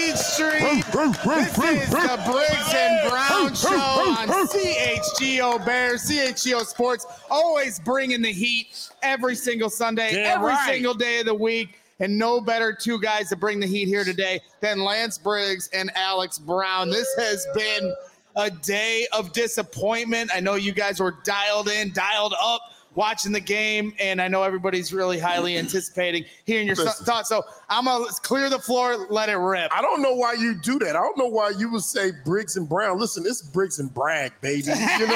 Street. This is the Briggs and Brown Show on CHGO Bears, CHGO Sports, always bringing the heat every single Sunday, every single day of the week. And no better two guys to bring the heat here today than Lance Briggs and Alex Brown. This has been a day of disappointment. I know you guys were dialed in, dialed up, watching the game, and I know everybody's really highly anticipating hearing your thoughts. So I'm going to clear the floor, let it rip. I don't know why you do that. I don't know why you would say Briggs and Brown. Listen, it's Briggs and Bragg, baby. You know what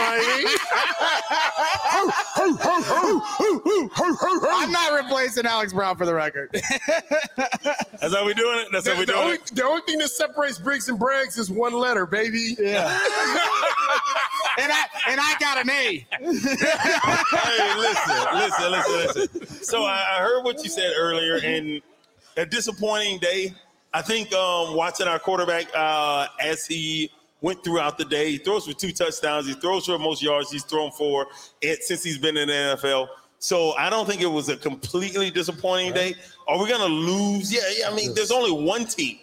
I mean? I'm not replacing Alex Brown for the record. That's how we doing it? That's how we doing it? The only thing that separates Briggs and Braggs is one letter, baby. Yeah. and I got an A. Hey, listen. So I heard what you said earlier, and a disappointing day. I think watching our quarterback as he went throughout the day, he throws for 2 touchdowns. He throws for most yards he's thrown for since he's been in the NFL. So I don't think it was a completely disappointing day. Are we going to lose? Yeah. I mean, there's only one team,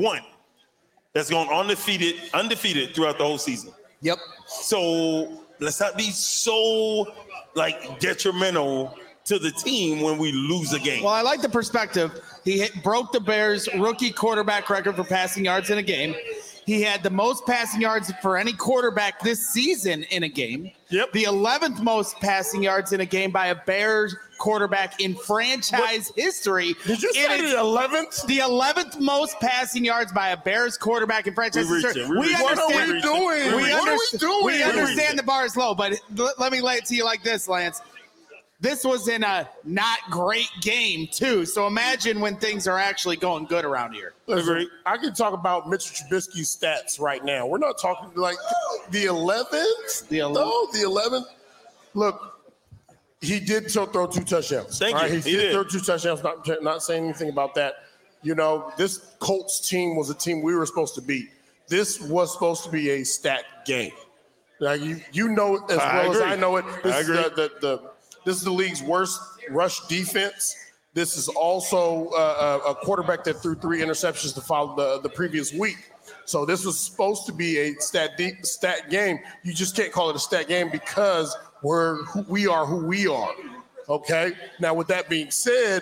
that's gone undefeated throughout the whole season. Yep. So let's not be so detrimental to the team when we lose a game. Well, I like the perspective. He broke the Bears' rookie quarterback record for passing yards in a game. He had the most passing yards for any quarterback this season in a game. Yep. The 11th most passing yards in a game by a Bears quarterback in franchise history. Did you say the 11th? The 11th most passing yards by a Bears quarterback in franchise history. What are we doing? We understand the bar is low, but let me lay it to you like this, Lance. This was in a not great game, too. So imagine when things are actually going good around here. Listen, I can talk about Mitchell Trubisky's stats right now. We're not talking like the 11th. The 11th. No, the 11th. Look, he did throw 2 touchdowns. Thank you. He did throw 2 touchdowns. Not saying anything about that. You know, this Colts team was a team we were supposed to beat. This was supposed to be a stat game. Like you know it as well as I know it. This is the league's worst rush defense. This is also a quarterback that threw 3 interceptions to follow the previous week. So this was supposed to be a stat game. You just can't call it a stat game because we are who we are. Okay? Now, with that being said,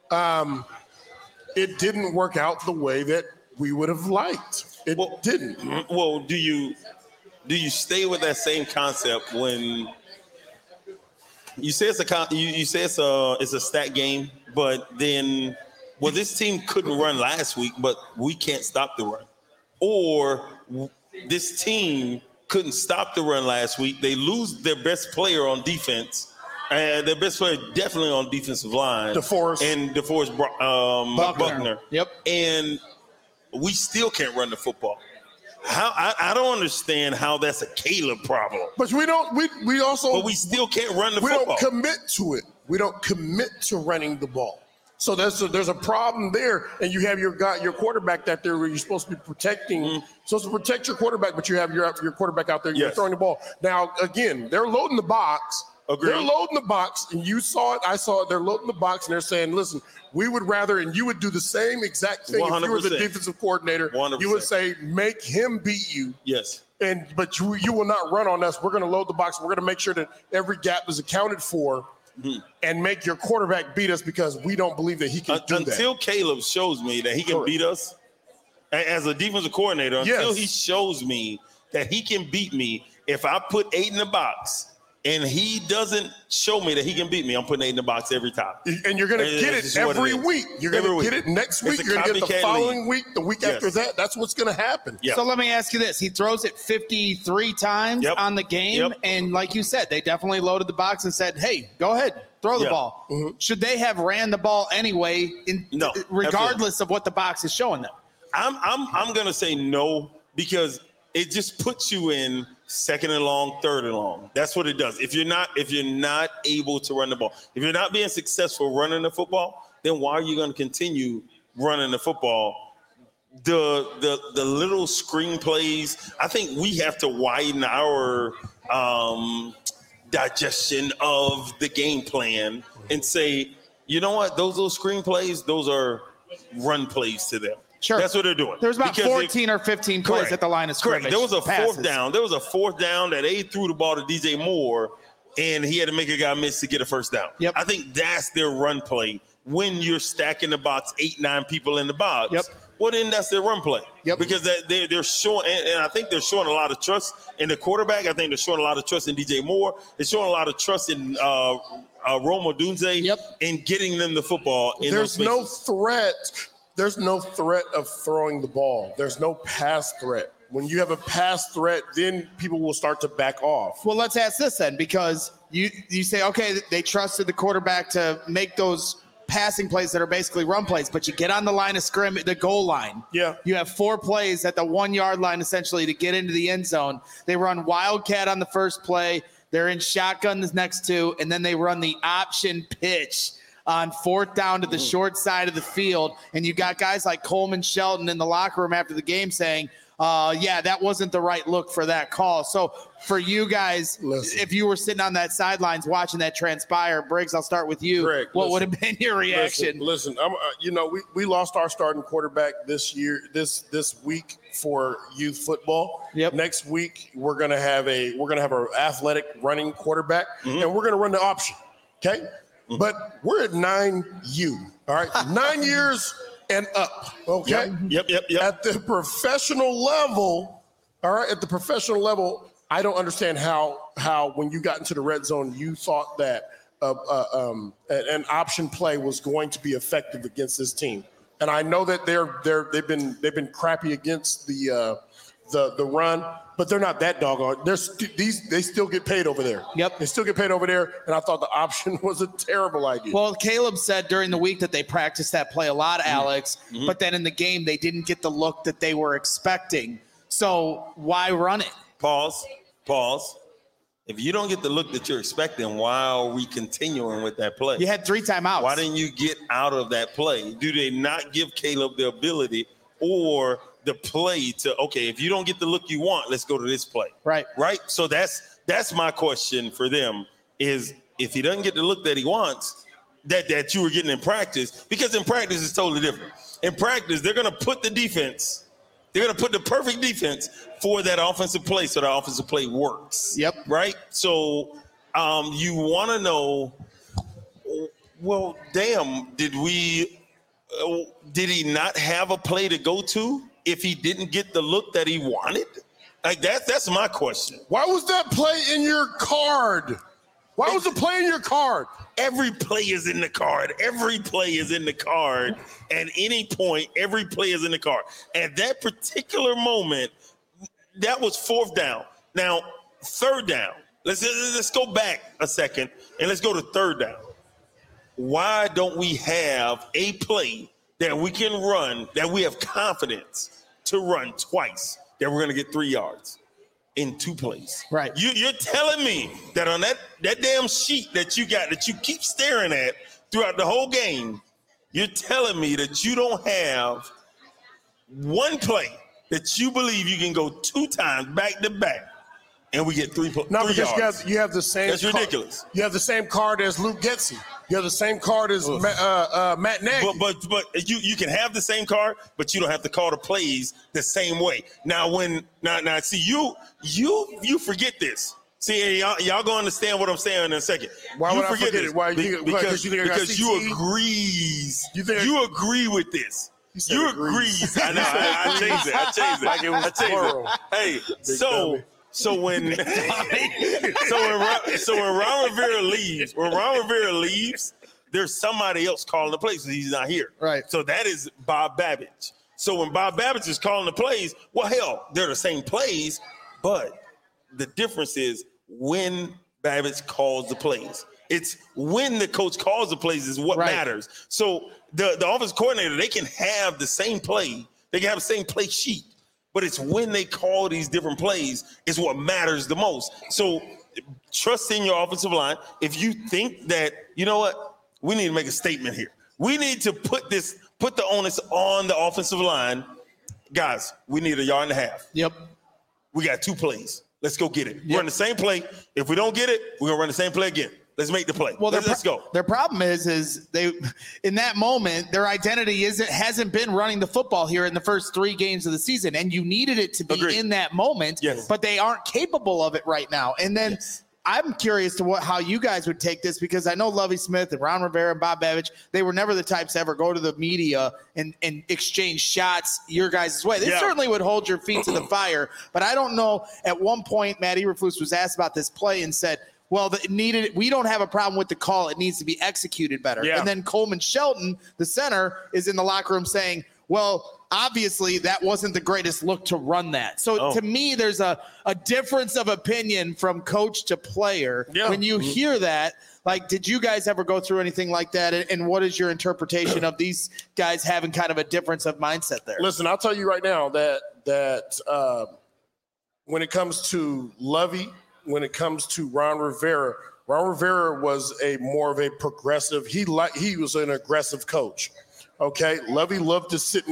it didn't work out the way that we would have liked. It didn't. Well, do you stay with that same concept when you say it's a stat game, but then this team couldn't run last week, but we can't stop the run, or this team couldn't stop the run last week. They lose their best player on defense, and their best player definitely on defensive line, DeForest Buckner. Yep, and we still can't run the football. I don't understand how that's a Caleb problem. But we still can't run the football. We don't commit to it. We don't commit to running the ball. So there's a problem there, and you have your quarterback that you're supposed to be protecting. Mm-hmm. Supposed to protect your quarterback, but you have your quarterback out there. You're throwing the ball. Now again, they're loading the box. Agreed. They're loading the box, and you saw it. I saw it. They're loading the box, and they're saying, "Listen, we would rather," and you would do the same exact thing 100%. If you were the defensive coordinator. 100%. You would say, "Make him beat you." Yes. But you will not run on us. We're going to load the box. We're going to make sure that every gap is accounted for, and make your quarterback beat us because we don't believe that he can do that. Until Caleb shows me that he can beat us as a defensive coordinator, until he shows me that he can beat me, if I put 8 in the box and he doesn't show me that he can beat me, I'm putting 8 in the box every time. And you're going to get it every week. You're going to get it next week. You're going to get the following week, the week after that. That's what's going to happen. Yep. So let me ask you this. He throws it 53 times on the game. Yep. And like you said, they definitely loaded the box and said, hey, go ahead, throw the ball. Mm-hmm. Should they have ran the ball anyway, regardless of what the box is showing them? I'm going to say no, because it just puts you in second and long, third and long. That's what it does. If you're not able to run the ball, if you're not being successful running the football, then why are you going to continue running the football? The little screen plays, I think we have to widen our digestion of the game plan and say, you know what, those little screen plays, those are run plays to them. Sure. That's what they're doing. There was about 14 or 15 plays at the line of scrimmage. Correct. There was a passes. fourth down. There was a fourth down that they threw the ball to DJ Moore, and he had to make a guy miss to get a first down. Yep. I think that's their run play when you're stacking the box, 8-9 people in the box. Yep. Well, then that's their run play. Yep. Because they're showing, and I think they're showing a lot of trust in the quarterback. I think they're showing a lot of trust in DJ Moore. They're showing a lot of trust in Rome Odunze in getting them the football. There's no threat. There's no threat of throwing the ball. There's no pass threat. When you have a pass threat, then people will start to back off. Well, let's ask this then, because you say, okay, they trusted the quarterback to make those passing plays that are basically run plays, but you get on the line of scrimmage, the goal line. Yeah. You have 4 plays at the 1 yard line essentially to get into the end zone. They run wildcat on the first play. They're in shotgun the next 2, and then they run the option pitch on 4th down to the short side of the field. And you got guys like Coleman Shelton in the locker room after the game saying, yeah, that wasn't the right look for that call. So for you guys, if you were sitting on that sidelines watching that transpire, Briggs, I'll start with you. Greg, what would have been your reaction? Listen, we lost our starting quarterback this week for youth football. Yep. Next week we're gonna have an athletic running quarterback, and we're gonna run the option. Okay, but we're at 9U. All right, 9 years and up. Okay. Yep. At the professional level, all right. At the professional level, I don't understand how when you got into the red zone, you thought that an option play was going to be effective against this team. And I know that they've been crappy against the run, but they're not that doggone. They still get paid over there. Yep. They still get paid over there, and I thought the option was a terrible idea. Well, Caleb said during the week that they practiced that play a lot, Alex, but then in the game they didn't get the look that they were expecting. So why run it? Pause. If you don't get the look that you're expecting, why are we continuing with that play? You had 3 timeouts. Why didn't you get out of that play? Do they not give Caleb the ability or the play to, okay, if you don't get the look you want, let's go to this play. Right. So that's my question for them is if he doesn't get the look that he wants, that you were getting in practice, because in practice it's totally different. In practice, they're going to put the perfect defense for that offensive play so the offensive play works. Yep. Right? So you want to know, well, damn, did he not have a play to go to if he didn't get the look that he wanted? Like that's my question. Why was that play in your card? Why was the play in your card? Every play is in the card. Every play is in the card. At any point, every play is in the card. At that particular moment, that was 4th down. Now, 3rd down. Let's go back a second and let's go to 3rd down. Why don't we have a play that we can run, that we have confidence to run twice, that we're going to get 3 yards in 2 plays? Right. You're telling me that on that damn sheet that you got, that you keep staring at throughout the whole game, you're telling me that you don't have one play that you believe you can go 2 times back to back and we get 3 yards? No, because you have the same. That's ridiculous. You have the same card as Luke Getsy. You have the same card as Matt Nagy. But you can have the same card, but you don't have to call the plays the same way. Now see you forget this. See, y'all gonna understand what I'm saying in a second. Why would I forget it? Why? Because you agree with this. You agree. I know. I changed it. Like it was plural. Hey, so when Ron Rivera leaves, there's somebody else calling the plays because he's not here. Right. So that is Bob Babbage. So when Bob Babbage is calling the plays, well, hell, they're the same plays, but the difference is when Babbage calls the plays. It's when the coach calls the plays is what matters. So the offensive coordinator, they can have the same play. They can have the same play sheet. But it's when they call these different plays is what matters the most. So trust in your offensive line. If you think that, you know what, we need to make a statement here. We need to put the onus on the offensive line. Guys, we need 1.5 yards. Yep. We got 2 plays. Let's go get it. Yep. Run the same play. If we don't get it, we're going to run the same play again. Let's make the play. Well, let's go. Their problem is they in that moment their identity hasn't been running the football here in the first 3 games of the season, and you needed it to be in that moment. Yes. But they aren't capable of it right now. And then I'm curious to how you guys would take this, because I know Lovie Smith and Ron Rivera and Bob Babich, they were never the types to ever go to the media and exchange shots your guys' way. They certainly would hold your feet to the fire, but I don't know. At one point, Matt Eberflus was asked about this play and said, well, we don't have a problem with the call. It needs to be executed better. Yeah. And then Coleman Shelton, the center, is in the locker room saying, well, obviously that wasn't the greatest look to run that. So to me, there's a difference of opinion from coach to player. Yeah. When you hear that, like, did you guys ever go through anything like that? And what is your interpretation of these guys having kind of a difference of mindset there? Listen, I'll tell you right now that when it comes to Lovie, when it comes to Ron Rivera was more of a progressive. He was an aggressive coach. Okay, Lovie loved to sit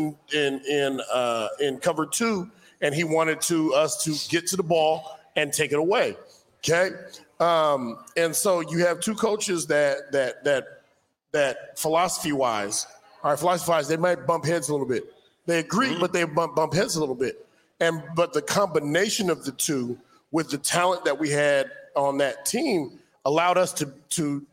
in cover 2, and he wanted us to get to the ball and take it away. Okay, and so you have 2 coaches that philosophy-wise, they might bump heads a little bit. They agree, but they bump heads a little bit. But the combination of the 2, with the talent that we had on that team, allowed us to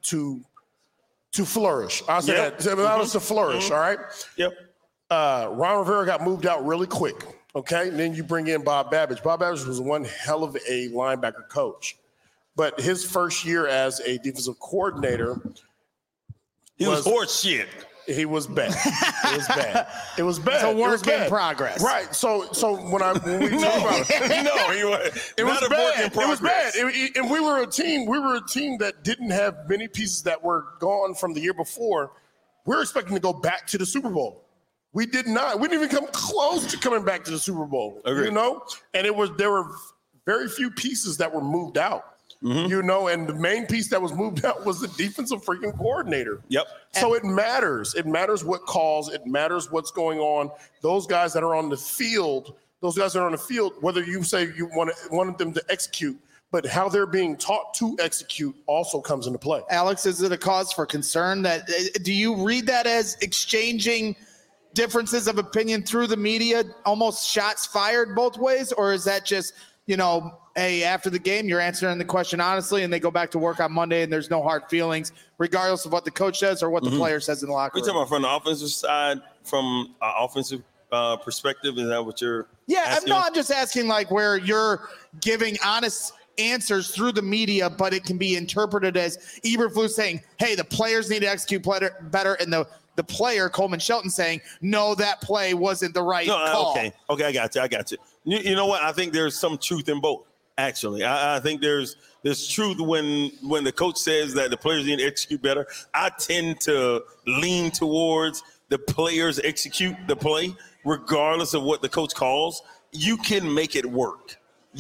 flourish. I'll say that. It allowed us to flourish, all right? Yep. Ron Rivera got moved out really quick, okay? And then you bring in Bob Babich. Bob Babich was one hell of a linebacker coach. But his first year as a defensive coordinator, he was horse shit. He was bad. It was bad. It was bad. It's a work in progress. Right. So when we talk about it, it was bad. It was bad. And we were a team that didn't have many pieces that were gone from the year before. We're expecting to go back to the Super Bowl. We did not. We didn't even come close to coming back to the Super Bowl. Agreed. You know? And there were very few pieces that were moved out. You know, and the main piece that was moved out was the defensive freaking coordinator. Yep. So it matters. It matters what calls. It matters what's going on. Those guys that are on the field, whether you say you wanted them to execute, but how they're being taught to execute also comes into play. Alex, is it a cause for concern? Do you read that as exchanging differences of opinion through the media, almost shots fired both ways? Or is that just, hey, after the game, you're answering the question honestly, and they go back to work on Monday, and there's no hard feelings, regardless of what the coach says or what the player says in the locker room? You're talking about from the offensive side, from an offensive perspective? Is that what you're asking? I'm just asking, like, where you're giving honest answers through the media, but it can be interpreted as Eberflus saying, hey, the players need to execute better, and the player, Coleman Shelton, saying, no, that play wasn't the right call. Okay, I got you. You know what? I think there's some truth in both. Actually, I think there's truth when the coach says that the players need to execute better. I tend to lean towards the players execute the play, regardless of what the coach calls. You can make it work.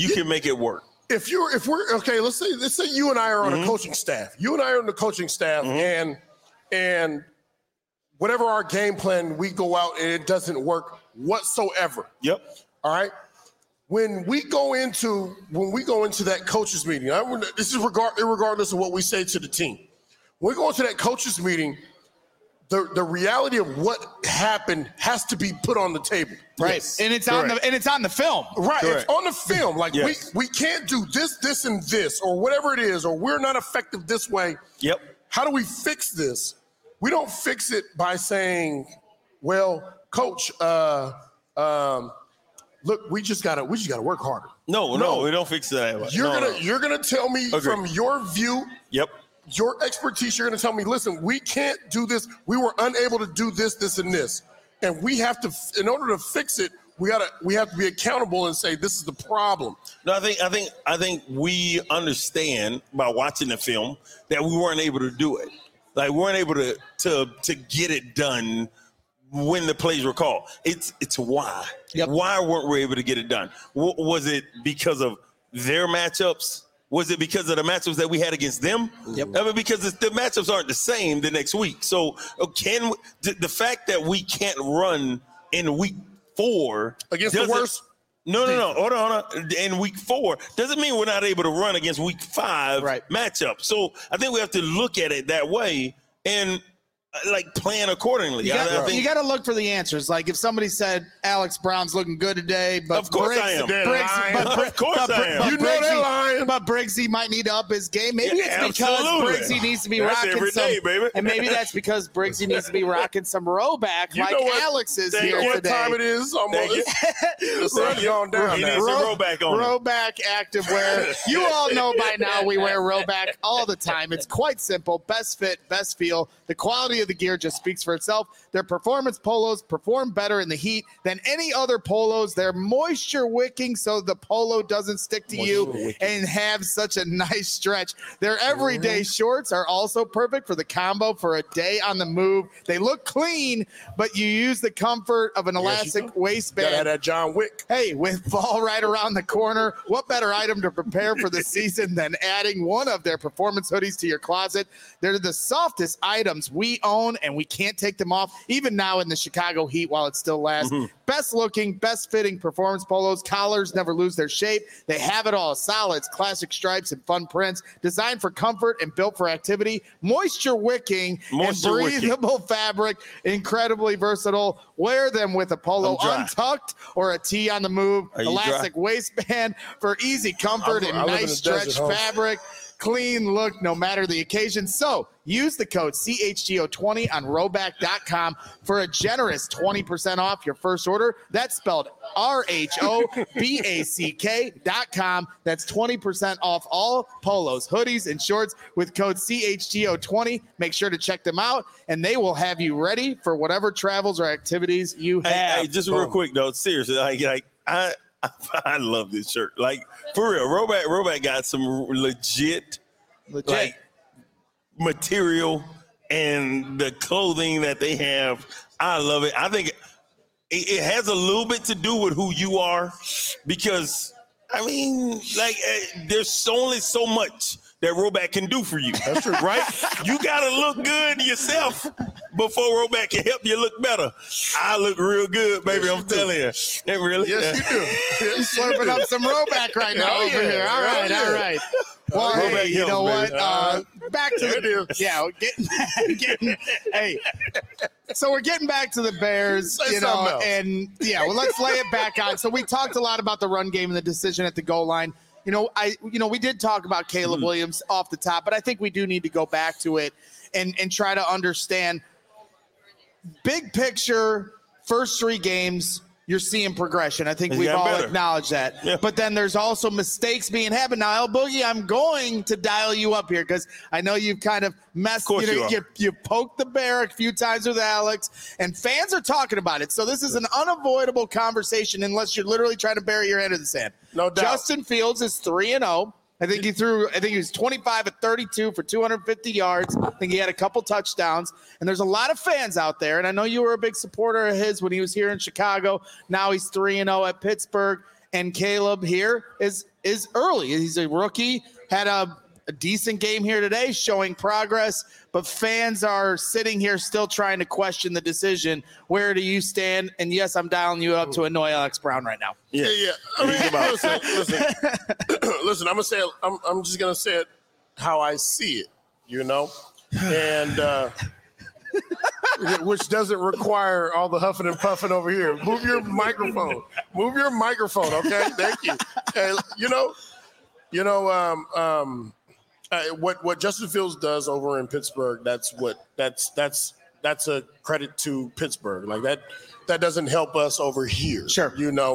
If we're okay, let's say you and I are on a coaching staff. You and I are on the coaching staff, and whatever our game plan, we go out and it doesn't work whatsoever. Yep. All right. When we go into that coaches meeting, this is regardless of what we say to the team. When we go into that coaches meeting, the reality of what happened has to be put on the table. Right. Yes. And it's on the film. Right. Correct. It's on the film. Like we can't do this, and this, or whatever it is, or we're not effective this way. Yep. How do we fix this? We don't fix it by saying, well, coach, look, we just gotta work harder. No, we don't fix that. You're gonna tell me from your view, your expertise. You're gonna tell me, listen, we can't do this. We were unable to do this, and this, and we have to. In order to fix it, we have to be accountable and say this is the problem. No, I think we understand by watching the film that we weren't able to do it. Like we weren't able to get it done when the plays were called. It's why. Yep. Why weren't we able to get it done? Was it because of their matchups? Was it because of the matchups that we had against them? Yep. I mean, because the matchups aren't the same the next week. So the fact that we can't run in week 4 against the worst No. Hold on. In week 4 doesn't mean we're not able to run against week 5 matchup. So I think we have to look at it that way and plan accordingly. You got to look for the answers. Like if somebody said Alex Brown's looking good today, but of course I am. Of course I am. You know they're lying. But Briggsy might need to up his game. Maybe it's because Briggsy needs to be rocking every day, baby. And maybe that's because Briggsy needs to be rocking some Roback Alex is here what today. What time it is? Almost. The sun's gone down. He needs some Roback on Roback activewear. You all know by now we wear Roback all the time. It's quite simple. Best fit, best feel. The quality of the gear just speaks for itself. Their performance polos perform better in the heat than any other polos. They're moisture wicking so the polo doesn't stick to you and have such a nice stretch. Their everyday shorts are also perfect for the combo for a day on the move. They look clean, but you use the comfort of an elastic waistband. Got that John Wick. Hey, with fall right around the corner, what better item to prepare for the season than adding one of their performance hoodies to your closet? They're the softest items we own, and we can't take them off, even now in the Chicago heat while it still lasts. Best looking, best fitting performance polos. Collars never lose their shape. They have it all. Solids, classic stripes, and fun prints. Designed for comfort and built for activity. Moisture wicking and breathable fabric. Incredibly versatile. Wear them with a polo untucked or a tee on the move. Elastic waistband for easy comfort and nice stretch fabric. Clean look no matter the occasion. So use the code CHGO20 on Roback.com for a generous 20% off your first order. That's spelled RHOBACK.com. That's 20% off all polos, hoodies, and shorts with code CHGO20. Make sure to check them out, and they will have you ready for whatever travels or activities you have. Hey, just real quick, though, seriously, I love this shirt. For real, Roback got some legit material, and the clothing that they have, I love it. I think it has a little bit to do with who you are, because there's only so much that Roback can do for you. That's true, right? You gotta look good yourself before Roback can help you look better. I look real good, baby. I'm telling you. It really. Yes, you do. Slurping up some Roback right now over here. All right. Well, hey, you know what? Back to hey. So we're getting back to the Bears, and let's lay it back on. So we talked a lot about the run game and the decision at the goal line. We did talk about Caleb Williams off the top, but I think we do need to go back to it and try to understand big picture. First 3 games, you're seeing progression. I think we've all acknowledged that. Yeah. But then there's also mistakes being happened. Now, El Boogie, I'm going to dial you up here because I know you've kind of messed. You poked the bear a few times with Alex, and fans are talking about it. So this is an unavoidable conversation unless you're literally trying to bury your head in the sand. No doubt. Justin Fields is 3-0. I think he was 25 at 32 for 250 yards. I think he had a couple touchdowns. And there's a lot of fans out there, and I know you were a big supporter of his when he was here in Chicago. Now he's 3-0 at Pittsburgh. And Caleb here is early. He's a rookie, had a decent game here today, showing progress. But fans are sitting here still trying to question the decision. Where do you stand? And yes, I'm dialing you up to annoy Alex Brown right now. Yeah. I mean, listen. I'm just gonna say it how I see it. And which doesn't require all the huffing and puffing over here. Move your microphone. Okay, thank you. What Justin Fields does over in Pittsburgh, that's a credit to Pittsburgh. That doesn't help us over here. Sure.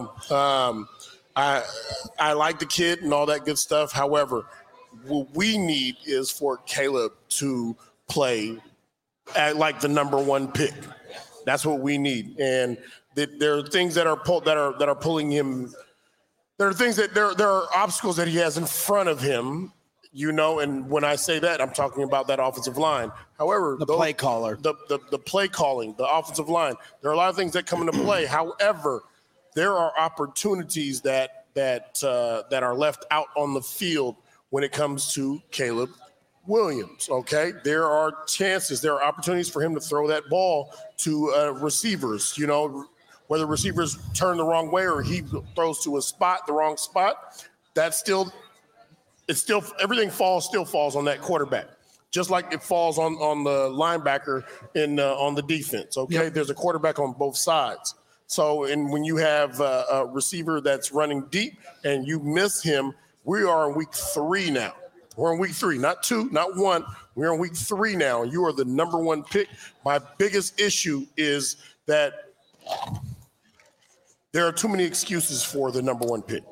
I like the kid and all that good stuff. However, what we need is for Caleb to play at the number 1 pick. That's what we need. And there are things that are pulling him. There are obstacles that he has in front of him. And when I say that, I'm talking about that offensive line. However, play caller, the play calling, the offensive line, there are a lot of things that come into play. However, there are opportunities that are left out on the field when it comes to Caleb Williams. Okay, there are opportunities for him to throw that ball to receivers. whether receivers turn the wrong way or he throws to the wrong spot, everything still falls on that quarterback. Just like it falls on the linebacker on the defense. Okay, yep. There's a quarterback on both sides. So, and when you have a receiver that's running deep and you miss him, we are in week 3 now. We're in week 3, not 2, not 1. We're in week 3 now. You are the number 1 pick. My biggest issue is that there are too many excuses for the number 1 pick.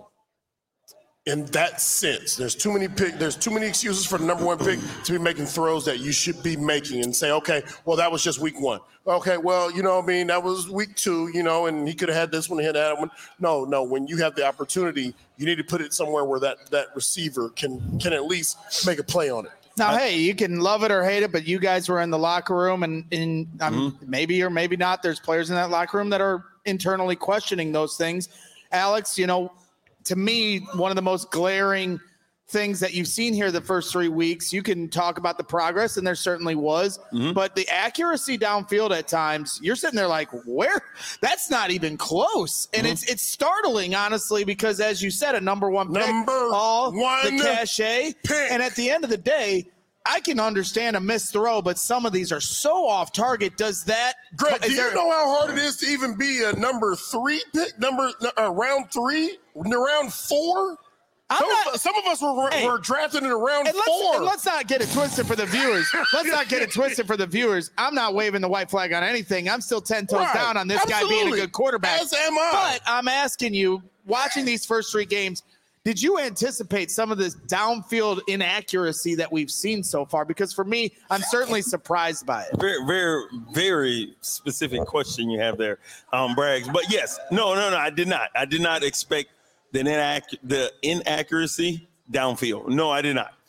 In that sense, there's too many excuses for the number 1 pick to be making throws that you should be making and say, okay, well, that was just week 1. Okay, well, that was week 2, and he could have had this one, he had that one. No, when you have the opportunity, you need to put it somewhere where that receiver can at least make a play on it. Now, hey, you can love it or hate it, but you guys were in the locker room, and maybe or maybe not, there's players in that locker room that are internally questioning those things. Alex, to me, one of the most glaring things that you've seen here the first 3 weeks, you can talk about the progress, and there certainly was, but the accuracy downfield at times, you're sitting there like, where? That's not even close. And it's startling, honestly, because as you said, a number 1 pick, the cachet. And at the end of the day, I can understand a missed throw, but some of these are so off target. Does that? Greg, do you know how hard it is to even be a number 3 pick, round 3, round 4? Some of us were drafted in round 4. And let's not get it twisted for the viewers. I'm not waving the white flag on anything. I'm still 10 toes down on this guy being a good quarterback. As am I. But I'm asking you, watching these first 3 games, did you anticipate some of this downfield inaccuracy that we've seen so far? Because for me, I'm certainly surprised by it. Very, very, very specific question you have there, Braggs. But yes, no, I did not. I did not expect the inaccuracy downfield. No, I did not.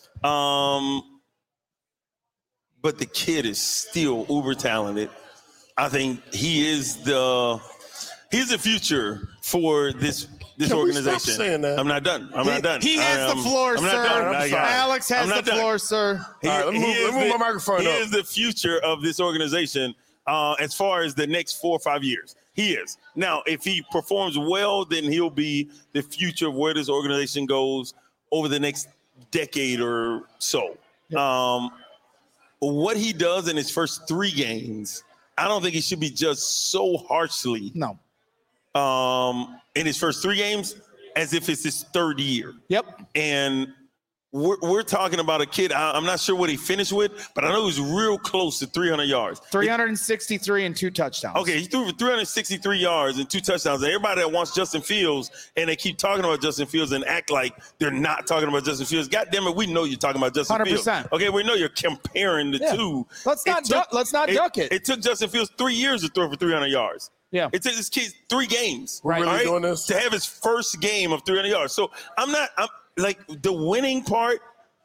But the kid is still uber talented. I think he is the future for this organization. Stop saying that? I'm not done. He has the floor, sir. Alex has the floor, sir. Let me move my microphone up. He is the future of this organization as far as the next 4 or 5 years. He is. Now, if he performs well, then he'll be the future of where this organization goes over the next decade or so. Yep. What he does in his first 3 games, I don't think he should be judged so harshly. No. In his first 3 games, as if it's his 3rd year. Yep. And we're talking about a kid. I'm not sure what he finished with, but I know he was real close to 300 yards. 363 and 2 touchdowns. Okay, he threw for 363 yards and 2 touchdowns. And everybody that wants Justin Fields, and they keep talking about Justin Fields and act like they're not talking about Justin Fields. God damn it, we know you're talking about Justin 100%. Fields. Okay, we know you're comparing the two. Let's not duck it. It took Justin Fields 3 years to throw for 300 yards. Yeah. It took this kid 3 games. We're really doing this? To have his first game of 300 yards. So I'm like the winning part.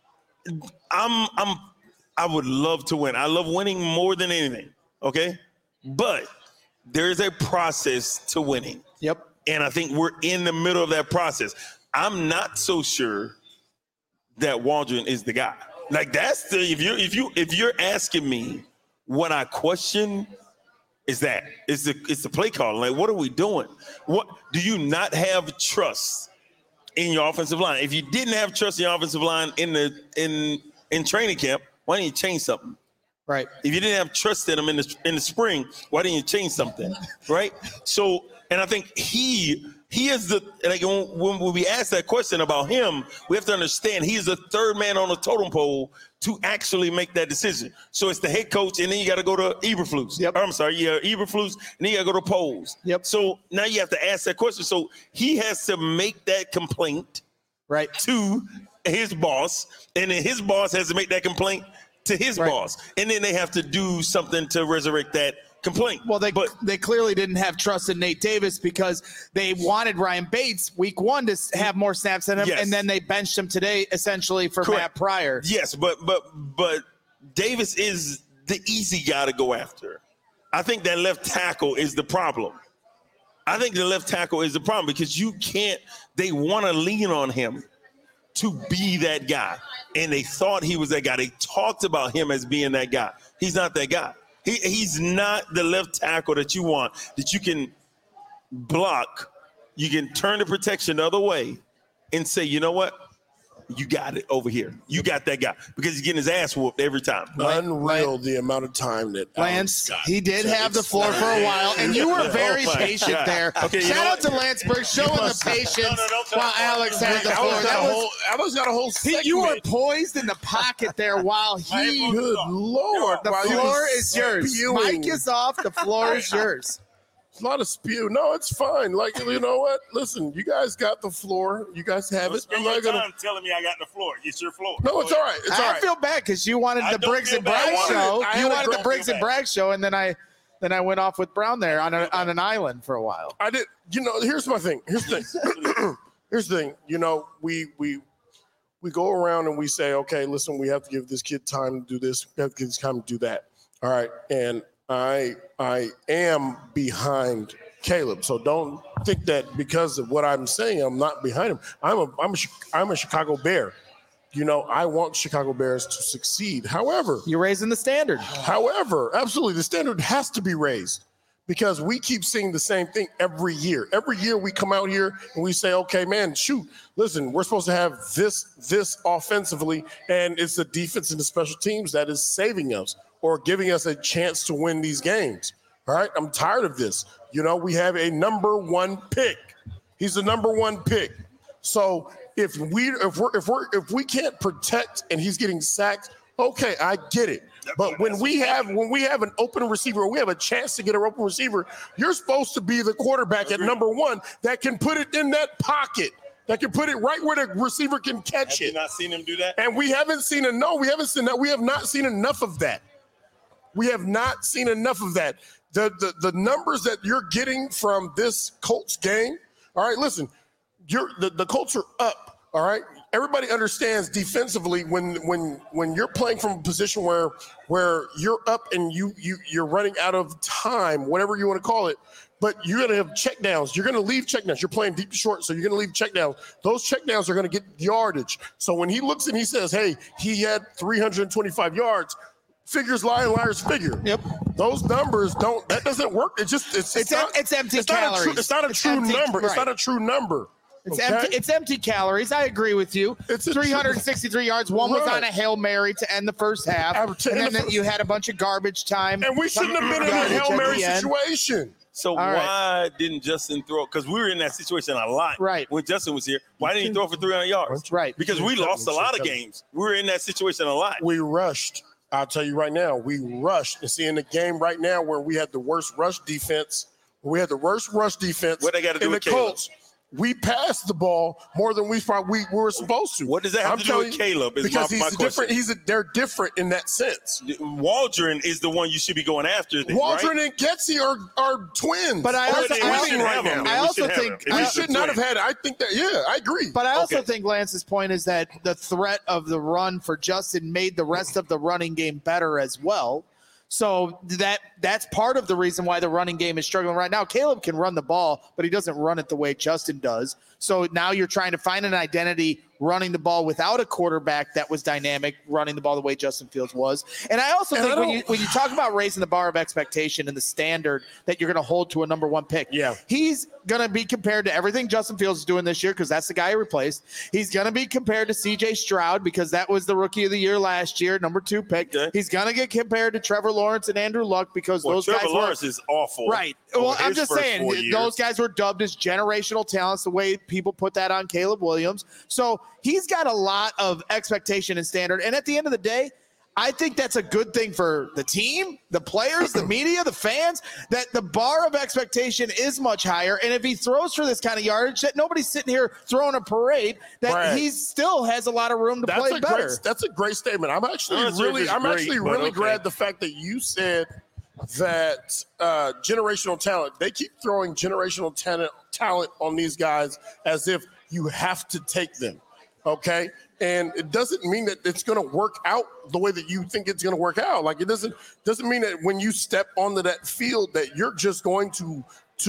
I would love to win. I love winning more than anything. Okay. But there is a process to winning. Yep. And I think we're in the middle of that process. I'm not so sure that Waldron is the guy. Like that's if you're asking me what I question, is that it's the play call. Like, what are we doing? What do you not have trust in your offensive line? If you didn't have trust in your offensive line in training camp, why didn't you change something? Right. If you didn't have trust in them in the spring, why didn't you change something? Right. So, and I think he is when we ask that question about him, we have to understand he is the 3rd man on the totem pole to actually make that decision. So it's the head coach, and then you got to go to Eberflus. Yep. Eberflus, and then you got to go to Poles. Yep. So now you have to ask that question. So he has to make that complaint right to his boss, and then his boss has to make that complaint to his boss. And then they have to do something to resurrect that complaint. Well, they clearly didn't have trust in Nate Davis because they wanted Ryan Bates week 1 to have more snaps than him, and then they benched him today essentially for Matt Pryor. Yes, but Davis is the easy guy to go after. I think that left tackle is the problem. I think the left tackle is the problem because they want to lean on him to be that guy. And they thought he was that guy. They talked about him as being that guy. He's not that guy. He's not the left tackle that you want, that you can block, you can turn the protection the other way and say, you know what? You got it over here. You got that guy because he's getting his ass whooped every time. Unreal the amount of time that Lance, he did have the floor for a while, and you were very patient there. Okay, Shout out to Lance Burke showing the patience while Alex had the floor. Alex got a whole segment. You were poised in the pocket there while he. Good Lord. The floor is yours. spewing. Mic is off. The floor is yours. It's not a spew. No, it's fine. Like, you know what? Listen, you guys got the floor. You guys have it. Spend your time telling me I got the floor. It's your floor. No, it's all right. It's all I right. feel bad because you wanted the Briggs and Bragg show. You wanted the Briggs and Bragg show, and then I went off with Brown there on an island for a while. I did. You know, here's my thing. Here's the thing. Here's the thing. You know, we go around and we say, okay, listen, we have to give this kid time to do this. We have to give this time to do that. All right, and I am behind Caleb. So don't think that because of what I'm saying, I'm not behind him. I'm a Chicago Bear. You know, I want Chicago Bears to succeed. However, You're raising the standard. Absolutely, the standard has to be raised because we keep seeing the same thing every year. Every year we come out here and we say, okay, man, shoot, listen, we're supposed to have this offensively, and it's the defense and the special teams that is saving us or giving us a chance to win these games. All right, I'm tired of this. You know, we have a number one pick. He's the number one pick. So if we can't protect and he's getting sacked, okay, I get it. But when we have an open receiver, or we have a chance to get an open receiver, you're supposed to be the quarterback at number one that can put it in that pocket, that can put it right where the receiver can catch it. Have you not seen him do that? And we have not seen enough of that. We have not seen enough of that. The numbers that you're getting from this Colts game, all right, listen, the Colts are up, all right? Everybody understands defensively when you're playing from a position where you're up and you're running out of time, whatever you want to call it, but you're going to have checkdowns. You're going to leave checkdowns. You're playing deep to short, so you're going to leave checkdowns. Those checkdowns are going to get yardage. So when he looks and he says, hey, he had 325 yards, figures lie and liars figure. Yep. Those numbers that doesn't work. It's empty calories. It's not a true number. It's not a true number. It's empty calories. I agree with you. It's 363 yards. One was on a Hail Mary to end the first half. And then you had a bunch of garbage time. And we shouldn't have been in a Hail Mary situation. So why didn't Justin throw? Because we were in that situation a lot when Justin was here. Why didn't he throw for 300 yards? Right. Because we lost a lot of games. We were in that situation a lot. We rushed. I'll tell you right now, we rushed. And see, in the game right now where we had the worst rush defense, what they got to do with Colts, we passed the ball more than we were supposed to. What does that have to do with Caleb? Because he's different. They're different in that sense. Waldron is the one you should be going after. Waldron and Getsy are twins. But I also think we should not have had. I think that. Yeah, I agree. But I also think Lance's point is that the threat of the run for Justin made the rest of the running game better as well. So that's part of the reason why the running game is struggling right now. Caleb can run the ball, but he doesn't run it the way Justin does. So now you're trying to find an identity running the ball without a quarterback that was dynamic, running the ball the way Justin Fields was. And I also think when you talk about raising the bar of expectation and the standard that you're going to hold to a number one pick, he's going to be compared to everything Justin Fields is doing this year because that's the guy he replaced. He's going to be compared to C.J. Stroud because that was the rookie of the year last year, number 2 pick. Okay. He's going to get compared to Trevor Lawrence and Andrew Luck because those guys Trevor Lawrence is awful. Right. Well, I'm just saying those guys were dubbed as generational talents, the way people put that on Caleb Williams. So he's got a lot of expectation and standard. And at the end of the day, I think that's a good thing for the team, the players, the media, the fans, that the bar of expectation is much higher. And if he throws for this kind of yardage, that nobody's sitting here throwing a parade, that he still has a lot of room to play better. That's a great statement. I'm actually really glad the fact that you said that generational talent, they keep throwing generational talent on these guys as if you have to take them. Okay. And it doesn't mean that it's going to work out the way that you think it's going to work out. Like it doesn't mean that when you step onto that field that you're just going to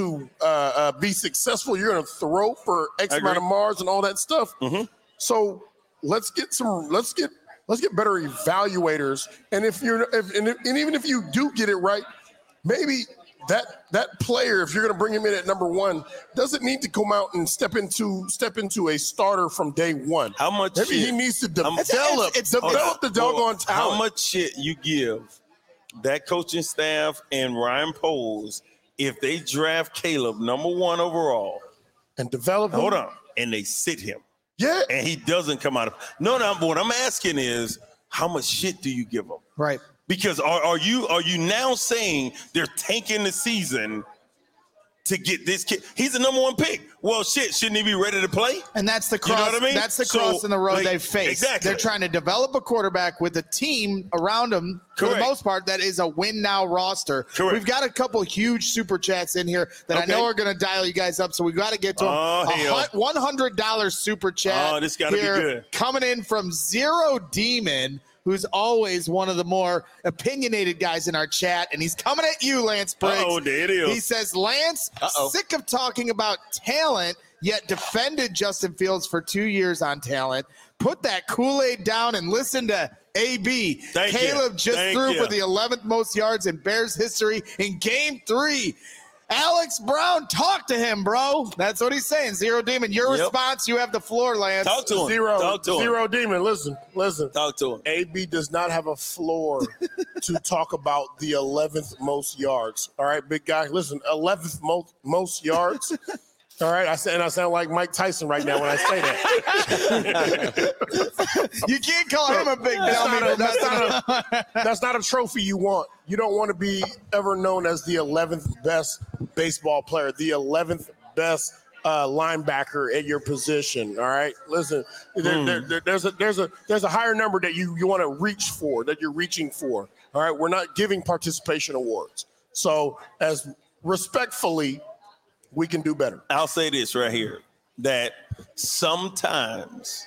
be successful. You're going to throw for X amount of yards and all that stuff. Mm-hmm. So let's get better evaluators. And even if you do get it right, maybe that player, if you're going to bring him in at number 1, doesn't need to come out and step into a starter from day one. How much? Maybe shit, he needs to develop the doggone talent. How much shit you give that coaching staff and Ryan Poles if they draft Caleb number 1 overall and develop him? Hold on, and they sit him. Yeah, and he doesn't come out of. No. What I'm asking is, how much shit do you give him? Right. Because are you now saying they're tanking the season to get this kid? He's the number 1 pick. Well, shit, shouldn't he be ready to play? And that's the cross. You know what I mean? That's the cross in the road they face. Exactly. They're trying to develop a quarterback with a team around him for the most part that is a win now roster. Correct. We've got a couple huge super chats in here that I know are going to dial you guys up, so we've got to get to them. $100 super chat. Oh, this got to be good. Coming in from Zero Demon, who's always one of the more opinionated guys in our chat, and he's coming at you, Lance Briggs. Oh, there it is. He says, Lance, sick of talking about talent, yet defended Justin Fields for 2 years on talent. Put that Kool-Aid down and listen to AB. Caleb just threw for the 11th most yards in Bears history in Game 3. Alex Brown, talk to him, bro. That's what he's saying. Zero Demon, your response, you have the floor, Lance. Talk to him. Zero Demon, listen. Talk to him. AB does not have a floor to talk about the 11th most yards. All right, big guy. Listen, 11th most yards. All right, I sound like Mike Tyson right now when I say that. You can't call him a big dummy. That's not a trophy you want. You don't want to be ever known as the 11th best baseball player, the 11th best linebacker at your position. All right, listen. There's a higher number that you want to reach for, that you're reaching for. All right, we're not giving participation awards. So as respectfully, we can do better. I'll say this right here, that sometimes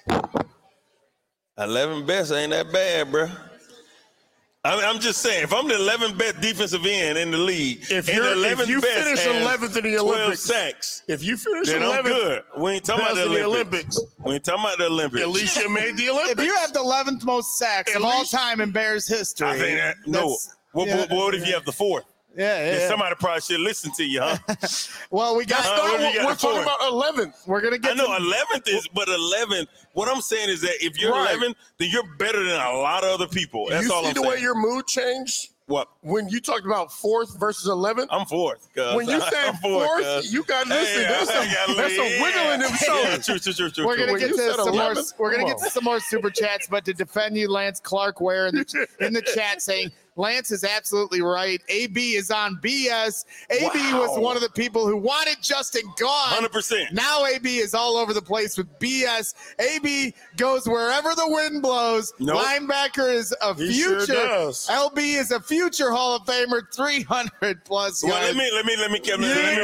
11 best ain't that bad, bro. I'm just saying, if I'm the 11th best defensive end in the league, if you finish 11th in the Olympics, 12 sacks, if you finish then 11th, I'm good. We ain't talking about the Olympics. We ain't talking about the Olympics. At least you made the Olympics. If you have the 11th most sacks of all time in Bears history, I think that, no. What if you have the 4th? Yeah. Somebody probably should listen to you, huh? Well, we got. We're talking about 11th. We're gonna get. I know 11th is, but 11th. What I'm saying is that if you're 11th, then you're better than a lot of other people. That's all I'm saying. You see the way your mood changed? What? When you talked about 4th versus 11th? I'm 4th. When you say 4th, you got listen. There's some wiggle in them shoulders. True. We're gonna get to some more. We're gonna get to some more super chats, but to defend you, Lance, Clark Ware in the chat saying Lance is absolutely right. AB is on BS. AB was one of the people who wanted Justin gone. 100%. Now AB is all over the place with BS. AB goes wherever the wind blows. Nope. Linebacker is a future. Sure does. LB is a future Hall of Famer, 300 plus yards. Well, let me respond to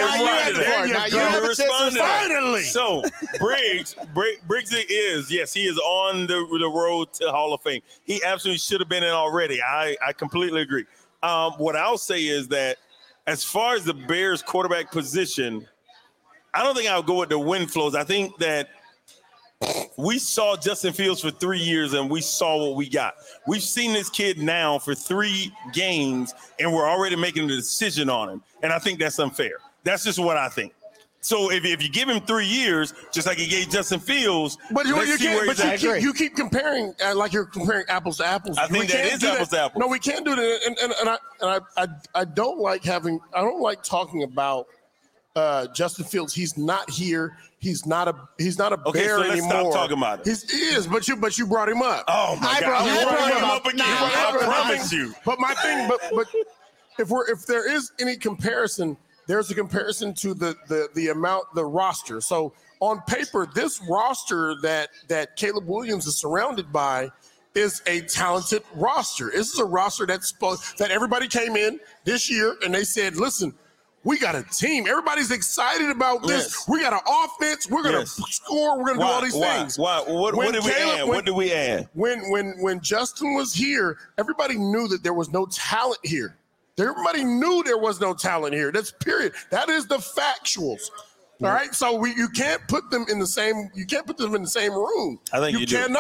that. Finally. So Briggs is, yes, he is on the road to Hall of Fame. He absolutely should have been in already. I completely agree. What I'll say is that as far as the Bears quarterback position, I don't think I'll go with the win flows. I think that we saw Justin Fields for 3 years and we saw what we got. We've seen this kid now for 3 games and we're already making a decision on him. And I think that's unfair. That's just what I think. So if you give him 3 years, just like he gave Justin Fields, but you keep comparing like you're comparing apples to apples. I think that is apples to apples. No, we can't do that. And I don't like talking about Justin Fields. He's not here. He's not a Bear so let's anymore. Stop talking about it. He is, but you brought him up. Oh my God! I brought him up again. I promise you. But my thing, but if there is any comparison. There's a comparison to the roster. So on paper, this roster that Caleb Williams is surrounded by is a talented roster. This is a roster that everybody came in this year and they said, listen, we got a team. Everybody's excited about this. Yes. We got an offense. We're going to score. We're going to do all these things. What did we add? When Justin was here, everybody knew that there was no talent here. Everybody knew there was no talent here. That's period. That is the factuals. All right. So you can't put them in the same. You can't put them in the same room. I think you cannot.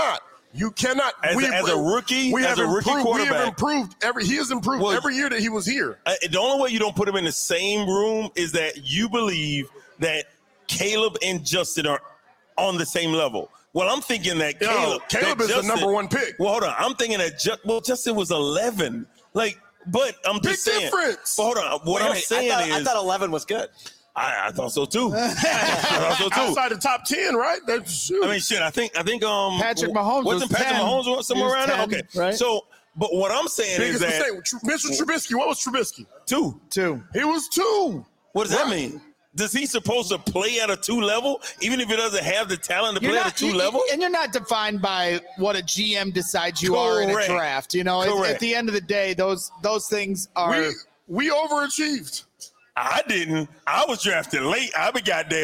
You cannot. As a rookie, we as have a rookie improved, quarterback. We have improved he has improved every year that he was here. The only way you don't put him in the same room is that you believe that Caleb and Justin are on the same level. Well, I'm thinking that Caleb is the number one pick. Well, hold on. I'm thinking that Justin was 11. But I'm just saying. Big difference. But hold on. What I'm saying I thought 11 was good. I thought so too. I thought so too. Outside the top 10, right? I mean, shit. I think. Patrick Mahomes wasn't Patrick 10. Mahomes somewhere around 10, there? Okay. right? So, but what I'm saying is that Mr. Trubisky. What was Trubisky? 2. He was 2. What does that mean? Does he supposed to play at a 2 level, even if he doesn't have the talent to play at a 2 level? And you're not defined by what a GM decides you are in a draft. You know, at the end of the day, those things are. We overachieved. I didn't. I was drafted late. I was drafted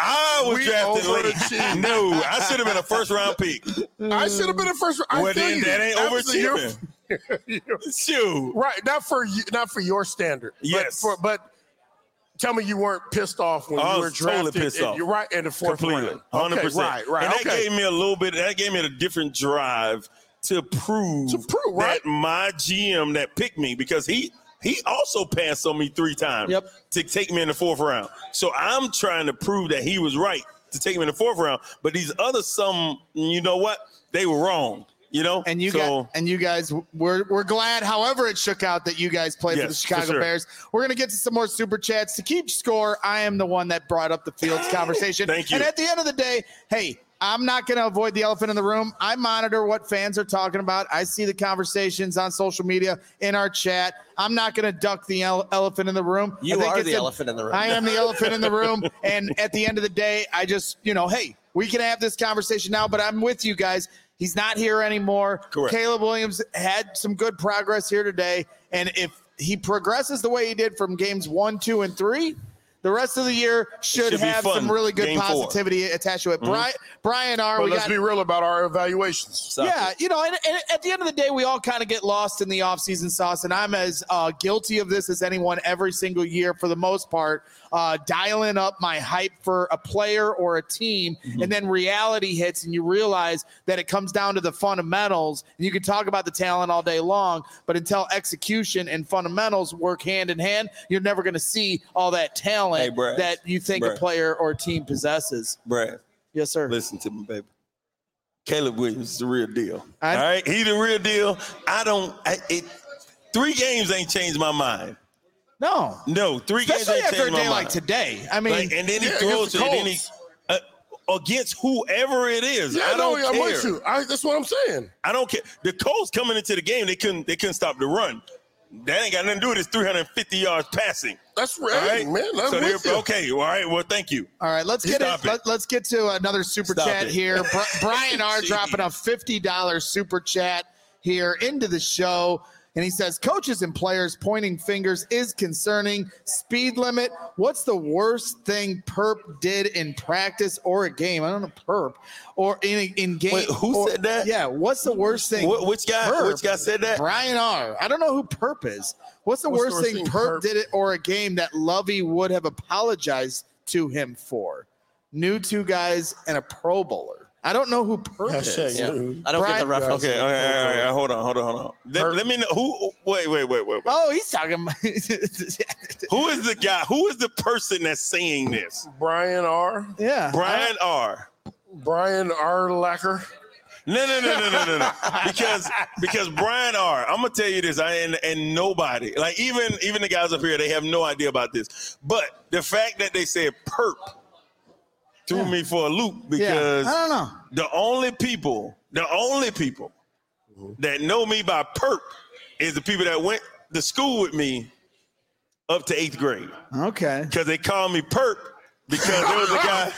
late. No, I should have been a first-round pick. I should have been a first round. Well, then that ain't overachieving. Shoot. Right, not for your standard. Yes. But tell me you weren't pissed off when you were drafted. Totally pissed off. You're right in the fourth round. 100%. Okay, right. And that gave me a little bit. That gave me a different drive to prove right? that my GM that picked me, because he also passed on me 3 times to take me in the 4th round. So I'm trying to prove that he was right to take me in the 4th round. But these other you know what? They were wrong. You know, and you guys, we're glad. However, it shook out that you guys played for the Chicago Bears. We're gonna get to some more super chats to keep score. I am the one that brought up the Fields conversation. Thank you. And at the end of the day, hey, I'm not going to avoid the elephant in the room. I monitor what fans are talking about. I see the conversations on social media, in our chat. I'm not going to duck the elephant in the room. You are the elephant in the room. I am the elephant in the room. And at the end of the day, I just, hey, we can have this conversation now, but I'm with you guys. He's not here anymore. Correct. Caleb Williams had some good progress here today. And if he progresses the way he did from games 1, 2, and 3, the rest of the year should have some really good positivity attached to it. Mm-hmm. Brian R. But let's be real about our evaluations. Yeah, and at the end of the day, we all kind of get lost in the offseason sauce, and I'm as guilty of this as anyone every single year for the most part, dialing up my hype for a player or a team, and then reality hits, and you realize that it comes down to the fundamentals. And you can talk about the talent all day long, but until execution and fundamentals work hand in hand, you're never going to see all that talent that you think a player or a team possesses. Brad. Yes, sir. Listen to me, baby. Caleb Williams is the real deal. All right? He's the real deal. 3 games ain't changed my mind. No, 3 games ain't changed my mind. Especially after a day like today. I mean, and then he throws it, and then he against whoever it is. Yeah, I don't care. I'm with you. That's what I'm saying. I don't care. The Colts coming into the game, they couldn't stop the run. That ain't got nothing to do with his 350 yards passing. That's right, man. Okay, all right. Well, thank you. All right, let's get to another super chat here. Brian R. dropping a $50 super chat here into the show. And he says, coaches and players pointing fingers is concerning. Speed limit. What's the worst thing Perp did in practice or a game? I don't know, Perp. Or in game. Wait, who said that? Yeah, what's the worst thing? Which guy? Perp, Which guy said that? Brian R. I don't know who Perp is. What's the worst thing Perp did it or a game that Lovey would have apologized to him for? New 2 guys and a Pro Bowler. I don't know who Perp is. Yeah. I don't get the reference. Okay, all right. Hold on. Let me know who. Wait. Oh, he's talking about. Who is the guy? Who is the person that's saying this? Brian R. Yeah. Brian R. Brian R. Lacker. No. Because Brian R. I'm gonna tell you this. And nobody, like even the guys up here, they have no idea about this. But the fact that they said Perp threw me for a loop, because I don't know. The only people that know me by Perp is the people that went to school with me up to 8th grade. Okay. Because they called me Perp because there was a guy.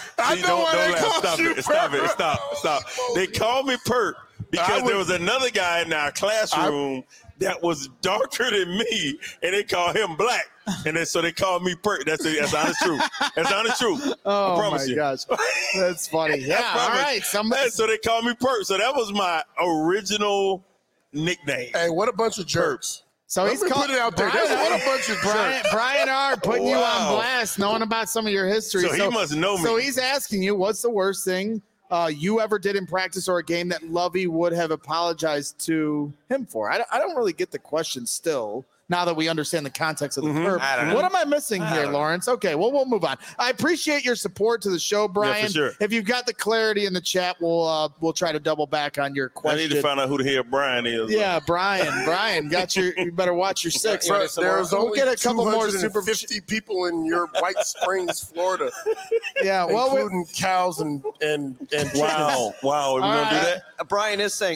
Stop. They called me Perp because there was another guy in our classroom that was darker than me, and they called him Black. And then, so they called me Perk. That's honest truth. That's honest truth. Oh, I promise my you. gosh. That's funny. Yeah, all right. So they called me Perk. So that was my original nickname. Hey, what a bunch of jerks. So he's put it out there. What a bunch of jerks. Brian R. putting you on blast, knowing about some of your history. So he must know me. So he's asking you, what's the worst thing you ever did in practice or a game that Lovey would have apologized to him for? I don't really get the question still. Now that we understand the context of the perp. What am I missing here, Lawrence? Okay, well, we'll move on. I appreciate your support to the show, Brian. Yeah, for sure. If you've got the clarity in the chat, we'll try to double back on your question. I need to find out who the hell Brian is. Yeah, Brian, you better watch your six. There's we'll only get a couple more 250 people in your White Springs, Florida. Yeah, well, including cows and wow, are we gonna do that? Brian is saying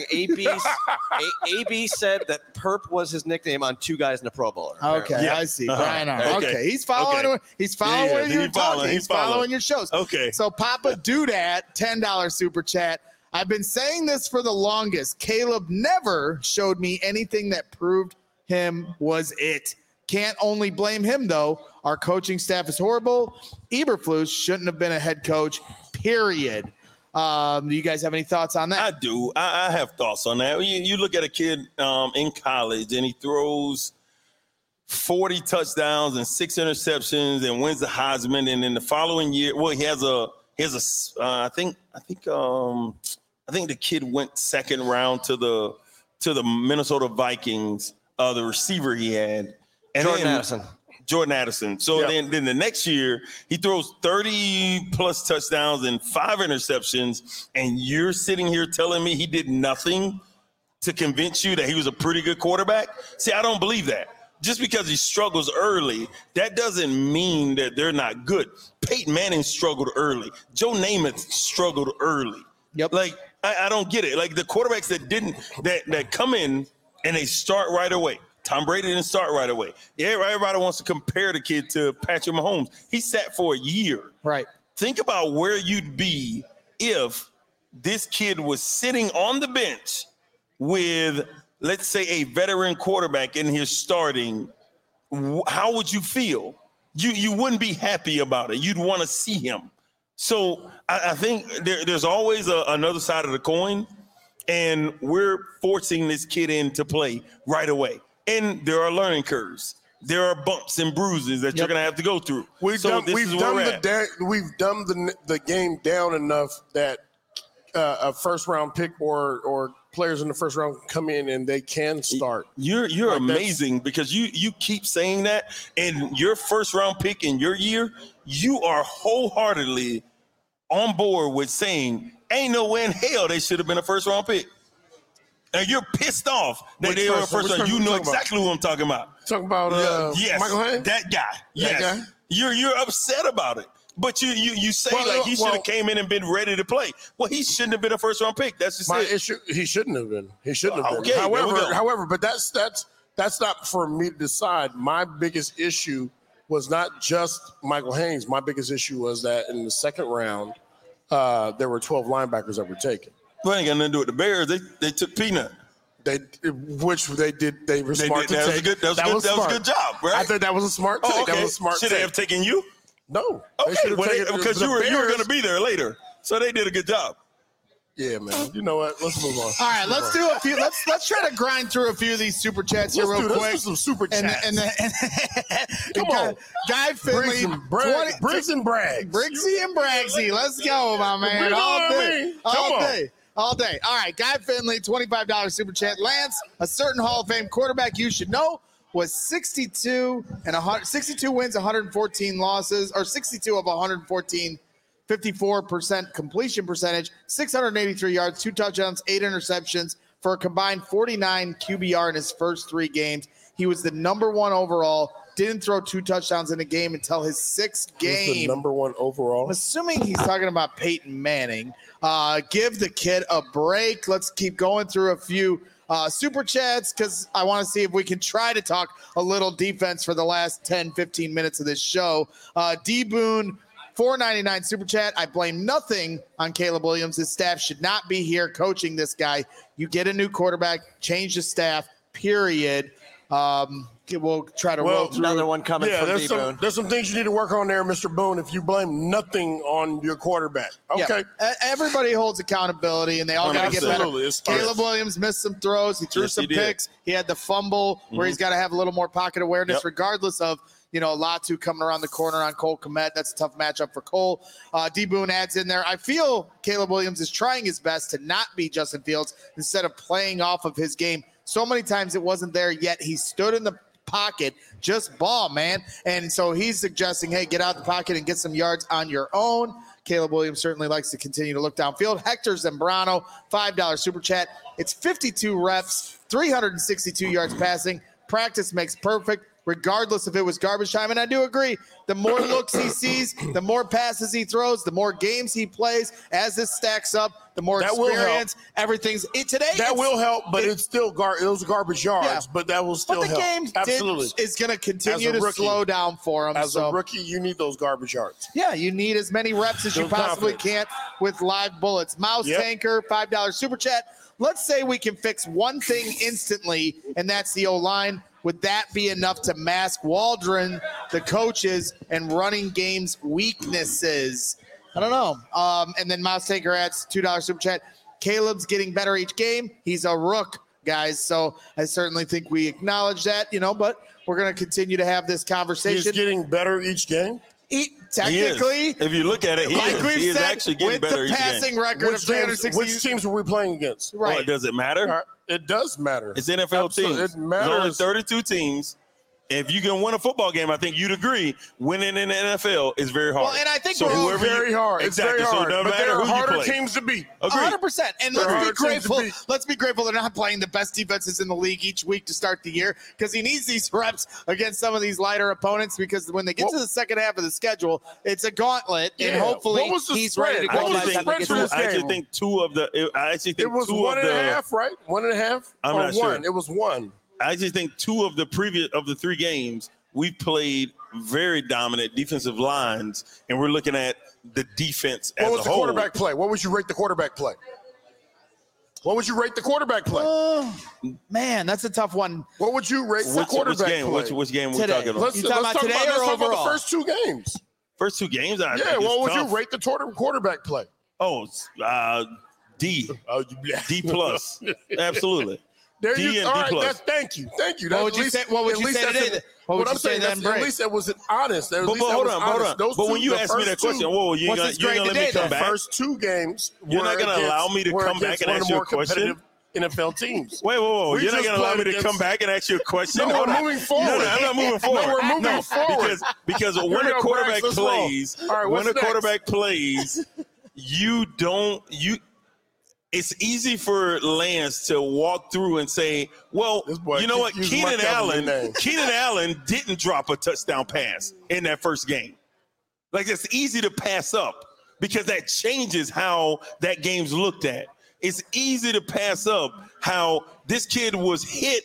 AB said that Perp was his nickname on Two Guys in a Pro Bowler. Okay, Yeah. I see. Brian, okay, he's following. Okay. He's following Yeah, what you're talking. He's following your shows. Okay. So Papa Doodat, $10 super chat. I've been saying this for the longest. Caleb never showed me anything that proved him was it. Can't only blame him though. Our coaching staff is horrible. Eberflus shouldn't have been a head coach. Period. Do you guys have any thoughts on that? I do. I have thoughts on that. You look at a kid in college and he throws 40 touchdowns and 6 interceptions and wins the Heisman. And in the following year, well, he has I think the kid went second round to the Minnesota Vikings. The receiver he had, and Jordan Addison. So then the next year he throws 30 plus touchdowns and 5 interceptions, and you're sitting here telling me he did nothing to convince you that he was a pretty good quarterback? See, I don't believe that. Just because he struggles early, that doesn't mean that they're not good. Peyton Manning struggled early. Joe Namath struggled early. Yep. Like, I don't get it. Like the quarterbacks that come in and they start right away. Tom Brady didn't start right away. Yeah, everybody wants to compare the kid to Patrick Mahomes. He sat for a year. Right. Think about where you'd be if this kid was sitting on the bench with, let's say, a veteran quarterback in his starting. How would you feel? You wouldn't be happy about it. You'd want to see him. So I think there's always another side of the coin, and we're forcing this kid into play right away. And there are learning curves. There are bumps and bruises that you're going to have to go through. We've dumbed the game down enough that a first-round pick or players in the first round come in and they can start. You're like amazing because you keep saying that, and your first-round pick in your year, you are wholeheartedly on board with saying, ain't no way in hell they should have been a first-round pick. And you're pissed off that they were a first round. You know exactly who I'm talking about. Talking about yes, Michael Haynes? that guy. Yes, that guy? You're upset about it, but you say he should have came in and been ready to play. Well, he shouldn't have been a first round pick. That's just my it. issue. He shouldn't have been. He shouldn't have been. Okay, however, but that's not for me to decide. My biggest issue was not just Michael Haynes. My biggest issue was that in the second round, there were 12 linebackers that were taken. Well, ain't got nothing to do with the Bears. They took Peanut. They were smart to take. That was a good job, right? I think that was a smart take. Okay. That was a smart Should take. they have taken you? No. Okay, because you were going to be there later. So they did a good job. Yeah, man. You know what? Let's move on. All right, let's do a few. Let's try to grind through a few of these super chats here real quick. Let's do some super chats. Come on, Guy Finley, Briggs and Braggs, Briggsy and Braggsy. Let's go, my man. All day. All right, Guy Finley, $25 super chat. Lance, a certain Hall of Fame quarterback you should know was 62 wins, 114 losses, or 62 of 114, 54% completion percentage, 683 yards, 2 touchdowns, 8 interceptions for a combined 49 QBR in his first 3 games. He was the number 1 overall. Didn't throw 2 touchdowns in a game until his 6th game. He was the number 1 overall. I'm assuming he's talking about Peyton Manning. Give the kid a break. Let's keep going through a few super chats because I want to see if we can try to talk a little defense for the last 10, 15 minutes of this show. D Boone, $4.99 super chat. I blame nothing on Caleb Williams. His staff should not be here coaching this guy. You get a new quarterback, change the staff, period. We'll try to roll through. Another one coming from D Boone. There's some things you need to work on there, Mr. Boone, if you blame nothing on your quarterback. Okay. Yeah. Everybody holds accountability, and they all got to get better. Caleb Williams missed some throws. He threw some picks. He had the fumble where he's got to have a little more pocket awareness, regardless of Latu coming around the corner on Cole Kmet. That's a tough matchup for Cole. D Boone adds in there. I feel Caleb Williams is trying his best to not be Justin Fields instead of playing off of his game. So many times it wasn't there, yet he stood in the pocket, just ball, man. And so he's suggesting, hey, get out the pocket and get some yards on your own. Caleb Williams certainly likes to continue to look downfield. Hector Zambrano, $5 super chat. It's 52 reps, 362 yards passing. Practice makes perfect, regardless if it was garbage time. And I do agree, the more looks he sees, the more passes he throws, the more games he plays. As this stacks up, the more experience, everything's today. That will help, but it's still those garbage yards. Yeah. But that will still help. But the game absolutely is going to continue to slow down for him. As a rookie, you need those garbage yards. Yeah, you need as many reps as you possibly can with live bullets. Mouse Tanker, $5 super chat. Let's say we can fix one thing instantly, and that's the O-line. Would that be enough to mask Waldron, the coaches, and running game's weaknesses? I don't know. And then Mouse Tanker adds $2 super chat. Caleb's getting better each game. He's a rook, guys. So I certainly think we acknowledge that, but we're going to continue to have this conversation. He's getting better each game? Technically, if you look at it, he is actually getting better each game. With the passing record of 360. Which teams are we playing against? Right. Well, does it matter? It does matter. It's NFL teams. It matters. There's only 32 teams. If you can win a football game, I think you'd agree, winning in the NFL is very hard. Well, and I think we're very hard. Exactly. It's very hard. So it doesn't but matter there are who harder you play. teams to beat. 100%. And let's be grateful. beat. Let's be grateful they're not playing the best defenses in the league each week to start the year, because he needs these reps against some of these lighter opponents, because when they get to the second half of the schedule, it's a gauntlet, and hopefully he's ready to go. I actually think two of the. It was 1.5, right? 1.5. I'm not sure. It was 1. I just think two of the three games we played very dominant defensive lines, and we're looking at the defense as a whole. What was the quarterback play? What would you rate the quarterback play? What would you rate the quarterback play? Man, that's a tough one. What would you rate the quarterback play? Which game we're talking about? Let's talk about today or overall? The first two games. First two games? What would you rate the quarterback play? D. D plus. Absolutely. There you go. All right, plus. Thank you. What would you say today? What I'm saying, at least it was honest. But hold on. But when you ask me that question, you're going to let me come back? The first two games, you're not going to allow me to come back and ask you a question? NFL teams. Wait. You're not going to allow me to come back and ask you a question? No, we're moving forward. No, I'm not moving forward. No, we're moving forward. Because when a quarterback plays, it's easy for Lance to walk through and say, well, you know what? Keenan Allen didn't drop a touchdown pass in that first game. Like, it's easy to pass up because that changes how that game's looked at. It's easy to pass up how this kid was hit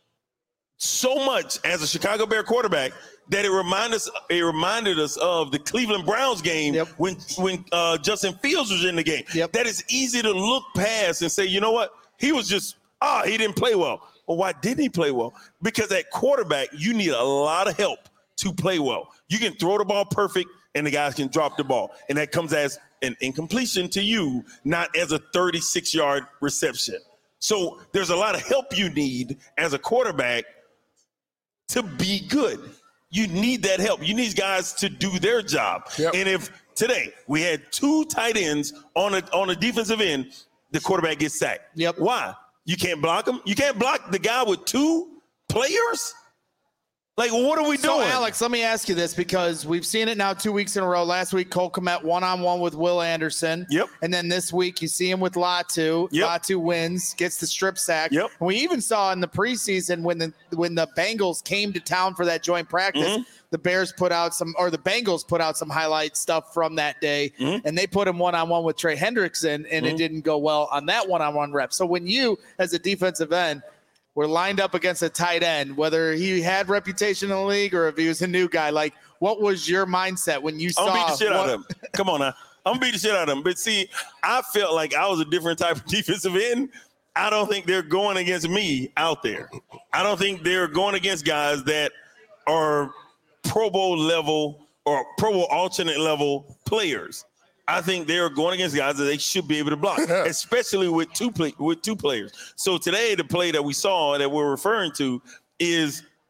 so much as a Chicago Bear quarterback that it reminded us of the Cleveland Browns game when Justin Fields was in the game. That is easy to look past and say, you know what? He was just, he didn't play well. Well, why didn't he play well? Because at quarterback, you need a lot of help to play well. You can throw the ball perfect, and the guys can drop the ball. And that comes as an incompletion to you, not as a 36-yard reception. So there's a lot of help you need as a quarterback to be good. You need that help. You need guys to do their job. And if today we had two tight ends on a defensive end, the quarterback gets sacked. Why? You can't block him? You can't block the guy with two players? Like, what are we doing? So, Alex, let me ask you this, because we've seen it now 2 weeks in a row. Last week, Cole Kmet one-on-one with Will Anderson. And then this week, you see him with Latu. Latu wins, gets the strip sack. And we even saw in the preseason when the Bengals came to town for that joint practice, the Bengals put out some highlight stuff from that day, and they put him one-on-one with Trey Hendrickson, and it didn't go well on that one-on-one rep. So when you, as a defensive end, were lined up against a tight end, whether he had reputation in the league or if he was a new guy, like, what was your mindset when you saw? I'm beat the shit out of him. Come on now. I'm beat the shit out of him. But see, I felt like I was a different type of defensive end. I don't think they're going against me out there. I don't think they're going against guys that are Pro Bowl level or Pro Bowl alternate level players. I think they're going against guys that they should be able to block, especially with two players. So today, the play that we saw that we're referring to is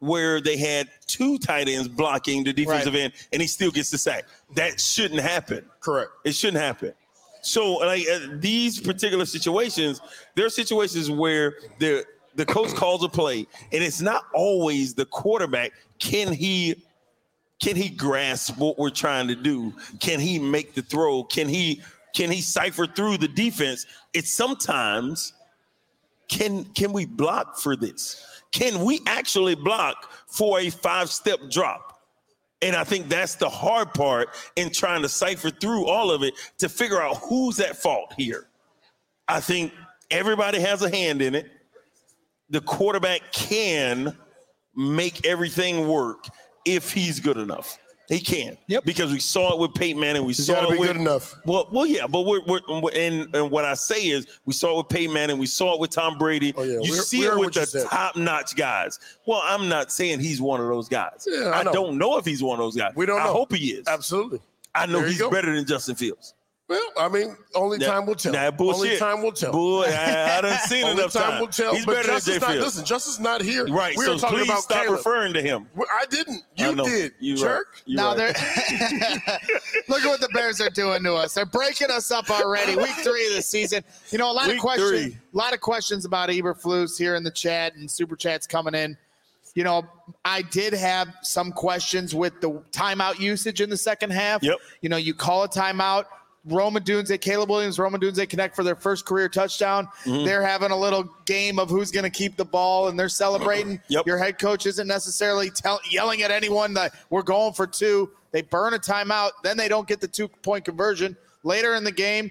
where they had 2 tight ends blocking the defensive end, and he still gets the sack. That shouldn't happen. Correct. It shouldn't happen. So, like these particular situations, there are situations where the coach calls a play, and it's not always the quarterback. Can he grasp what we're trying to do? Can he make the throw? Can he cipher through the defense? It's sometimes, can we block for this? Can we actually block for a 5-step drop? And I think that's the hard part in trying to cipher through all of it to figure out who's at fault here. I think everybody has a hand in it. The quarterback can make everything work if he's good enough. He can. Yep. Because we saw it with Peyton Manning. He's got to be good enough. Well, yeah. But and what I say is, we saw it with Peyton Manning. We saw it with Tom Brady. Oh, yeah. You see it with the top-notch guys. Well, I'm not saying he's one of those guys. Yeah, I don't know if he's one of those guys. We don't know. I hope he is. Absolutely. I know he's better than Justin Fields. Well, I mean, only time will tell. Nah, bullshit. Only time will tell. I done seen enough time. Time will tell. He's better than Jay Fields. Listen, Justin's not here. Right, We were talking please about stop Caleb. referring to him. I didn't. You did. You jerk. Right. You Now right. look at what the Bears are doing to us. They're breaking us up already. Week 3 of the season. You know, a lot of questions about Eberflus here in the chat, and super chats coming in. You know, I did have some questions with the timeout usage in the second half. Yep. You know, you call a timeout. Caleb Williams, Roman Dunze connect for their first career touchdown. Mm-hmm. They're having a little game of who's going to keep the ball, and they're celebrating. Yep. Your head coach isn't necessarily yelling at anyone that we're going for 2. They burn a timeout, then they don't get the 2-point conversion. Later in the game,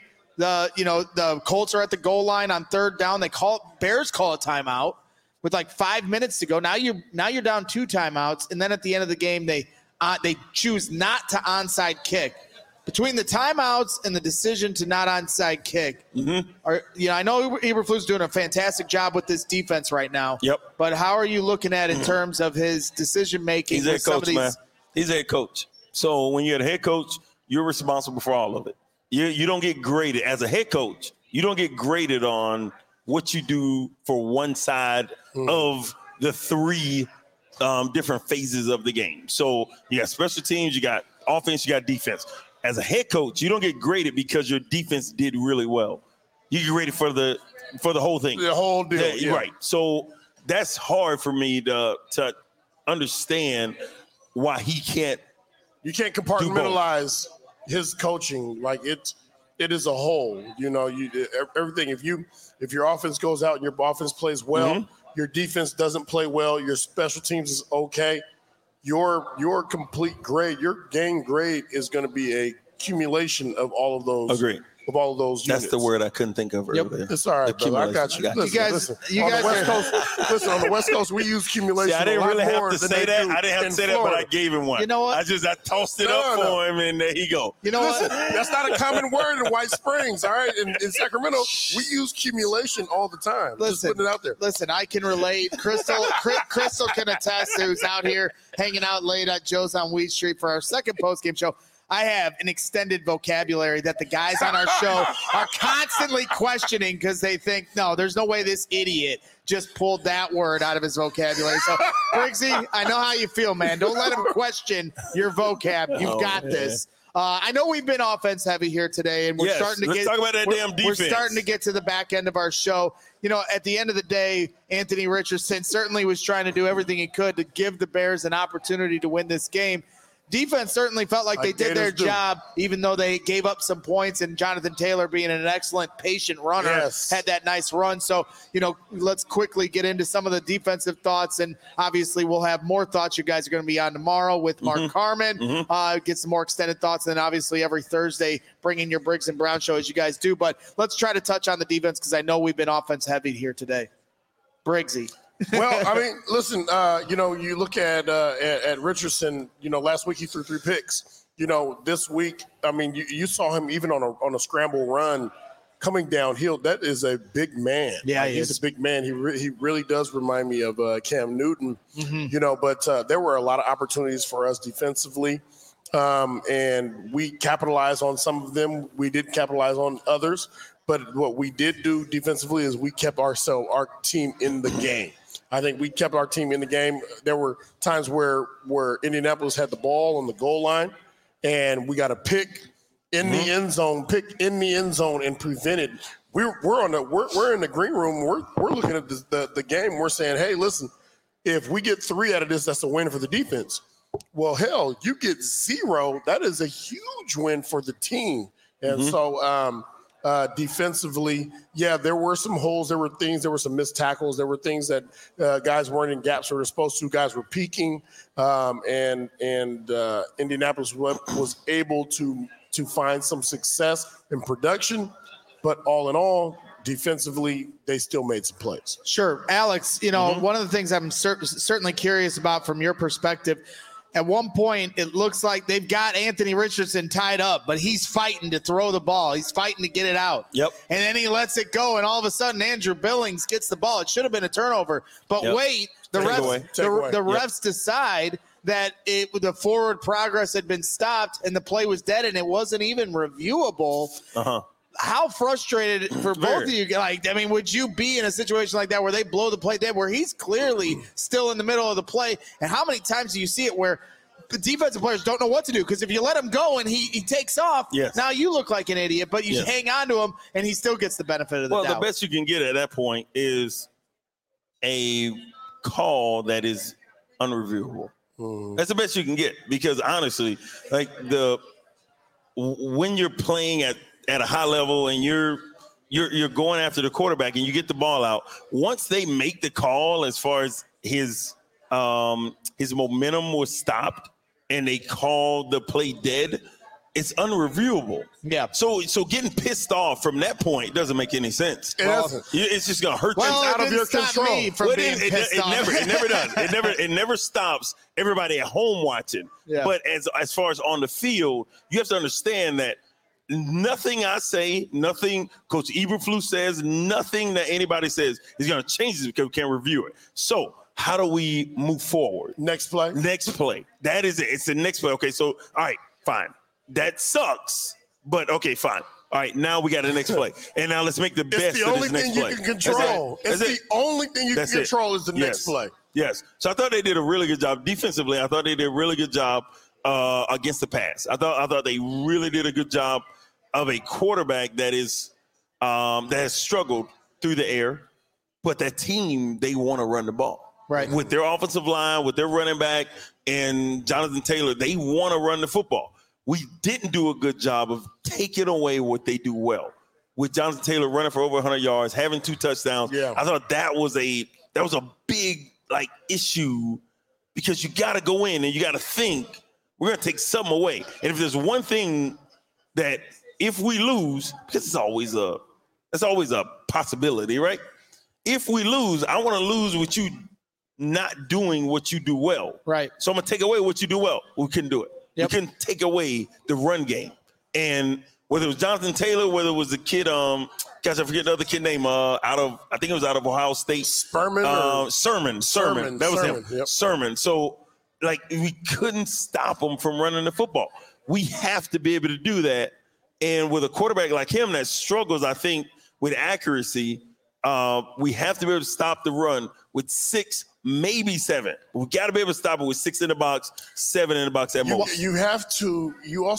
the Colts are at the goal line on 3rd down. Bears call a timeout with like 5 minutes to go. Now you're down 2 timeouts, and then at the end of the game, they choose not to onside kick. Between the timeouts and the decision to not onside kick, I know Eberflus doing a fantastic job with this defense right now. Yep. But how are you looking at in terms of his decision making? He's a head coach, man. He's a head coach. So when you're the head coach, you're responsible for all of it. You don't get graded as a head coach. You don't get graded on what you do for one side of the 3 different phases of the game. So you got special teams, you got offense, you got defense. As a head coach, you don't get graded because your defense did really well. You get graded for the whole thing. The whole deal. Yeah. Right. So that's hard for me to understand why he can't. You can't compartmentalize his coaching like it is a whole. You know, everything. If your offense goes out and your offense plays well, your defense doesn't play well, your special teams is okay. Your complete grade, your game grade is going to be a accumulation of all of those. Agreed. Of all of those units. That's the word I couldn't think of earlier. It's all right, brother. I got you. Listen, on the West Coast, we use accumulation. See, I didn't really have to say that. I didn't have to say that, but I gave him one. You know what? I tossed it up for him, and there he go. You know what? That's not a common word in White Springs, all right? In Sacramento, we use accumulation all the time. Just putting it out there. Listen, I can relate. Crystal can attest, who's out here hanging out late at Joe's on Weed Street for our second postgame show. I have an extended vocabulary that the guys on our show are constantly questioning because they think, no, there's no way this idiot just pulled that word out of his vocabulary. So, Briggsy, I know how you feel, man. Don't let him question your vocab. You've got this. I know we've been offense heavy here today, and we're starting to talk about that damn defense. We're starting to get to the back end of our show. You know, at the end of the day, Anthony Richardson certainly was trying to do everything he could to give the Bears an opportunity to win this game. Defense certainly felt like they did their job, even though they gave up some points, and Jonathan Taylor, being an excellent patient runner, had that nice run. So, you know, let's quickly get into some of the defensive thoughts, and obviously we'll have more thoughts. You guys are going to be on tomorrow with Mark Carman, get some more extended thoughts, and then obviously every Thursday bringing your Briggs and Brown show as you guys do. But let's try to touch on the defense because I know we've been offense heavy here today. Briggsy. Well, I mean, listen, you know, you look at Richardson, you know, last week he threw 3 picks. You know, this week, I mean, you saw him even on a scramble run coming downhill. That is a big man. Yeah, he's a big man. He really does remind me of Cam Newton, you know, but there were a lot of opportunities for us defensively. And we capitalized on some of them. We didn't capitalize on others. But what we did do defensively is we kept our team in the game. I think we kept our team in the game. There were times where Indianapolis had the ball on the goal line, and we got a pick in the end zone, and prevented. We're in the green room. We're looking at the game. We're saying, hey, listen, if we get 3 out of this, that's a win for the defense. Well, hell, you get 0. That is a huge win for the team. And so defensively, yeah, there were some holes. There were some missed tackles. There were things that guys weren't in gaps where they're supposed to. Guys were peaking, and Indianapolis was able to find some success in production. But all in all, defensively, they still made some plays. Sure. Alex, one of the things I'm certainly curious about from your perspective, at one point, it looks like they've got Anthony Richardson tied up, but he's fighting to throw the ball. He's fighting to get it out. Yep. And then he lets it go, and all of a sudden, Andrew Billings gets the ball. It should have been a turnover. But wait, the refs decide that the forward progress had been stopped and the play was dead, and it wasn't even reviewable. How frustrated for both of you? Would you be in a situation like that where they blow the play dead, where he's clearly still in the middle of the play? And how many times do you see it where the defensive players don't know what to do? Because if you let him go and he takes off, now you look like an idiot, but you hang on to him and he still gets the benefit of the doubt. Well, the best you can get at that point is a call that is unreviewable. That's the best you can get, because honestly, when you're playing at a high level and you're going after the quarterback and you get the ball out, once they make the call as far as his momentum was stopped and they called the play dead, it's unreviewable. Yeah. So getting pissed off from that point doesn't make any sense. It's just gonna hurt you. Well, out of your control. It never does. It never stops everybody at home watching. Yeah. But as far as on the field, you have to understand that nothing I say, nothing Coach Eberflus says, nothing that anybody says is going to change this because we can't review it. So how do we move forward? Next play. That is it. It's the next play. Okay, so, all right, fine. That sucks, but okay, fine. All right, now we got the next play. And now let's make the best of this next play. It's the only thing you can control. It's the only thing you can control is the next play. Yes. So I thought they did a really good job. Defensively, I thought they did a really good job against the pass. I thought they really did a good job of a quarterback that has struggled through the air, but that team, they want to run the ball. Right. With their offensive line, with their running back, and Jonathan Taylor, they want to run the football. We didn't do a good job of taking away what they do well. With Jonathan Taylor running for over 100 yards, having 2 touchdowns, I thought that was a big issue, because you got to go in and you got to think we're going to take something away. And if there's one thing that if we lose, because it's always a possibility, right? If we lose, I want to lose with you not doing what you do well. Right. So I'm going to take away what you do well. We couldn't do it. Yep. We couldn't take away the run game. And whether it was Jonathan Taylor, whether it was the kid, gosh, I forget the other kid name, I think it was out of Ohio State. Sermon. That was him. Yep. Sermon. So, we couldn't stop him from running the football. We have to be able to do that. And with a quarterback like him that struggles, I think, with accuracy, we have to be able to stop the run with 6, maybe 7. We got to be able to stop it with 6 in the box, 7 in the box at most. You have to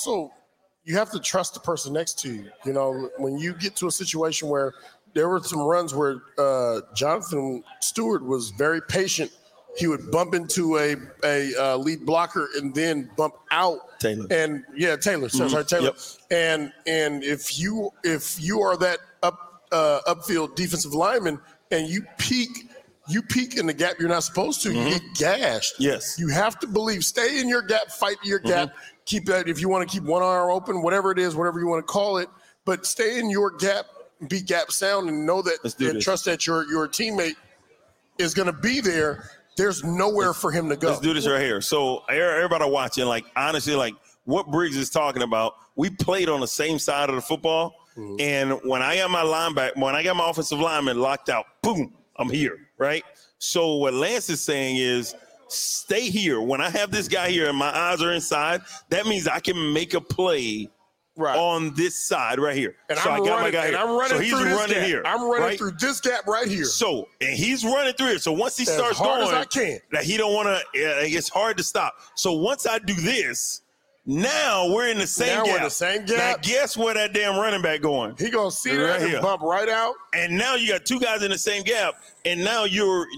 trust the person next to you. When you get to a situation where there were some runs where Jonathan Stewart was very patient, he would bump into a lead blocker and then bump out Taylor. Taylor. Sorry, Taylor. Yep. And if you are that upfield defensive lineman and you peak in the gap you're not supposed to, you get gashed. Yes. You have to believe. Stay in your gap, fight your gap. Keep that, if you want to keep one arm open, whatever it is, whatever you want to call it, but stay in your gap, be gap sound, and know that and trust that your teammate is going to be there. There's nowhere for him to go. Let's do this right here. So everybody watching, honestly, what Briggs is talking about, we played on the same side of the football. And when I got my offensive lineman locked out, boom, I'm here, right? So what Lance is saying is, stay here. When I have this guy here and my eyes are inside, that means I can make a play on this side right here. And so I'm I got running, my guy and here. I'm running so he's through this running gap. here. I'm running right? through this gap right here. So, and he's running through here. So once he starts hard going, as I can. that he don't want to, it's hard to stop. So once I do this, now we're in the same Now gap. we're in the same Now gap. guess where that damn running back going? He gonna see Right that and here. bump right out. And now you got two guys in the same gap, and now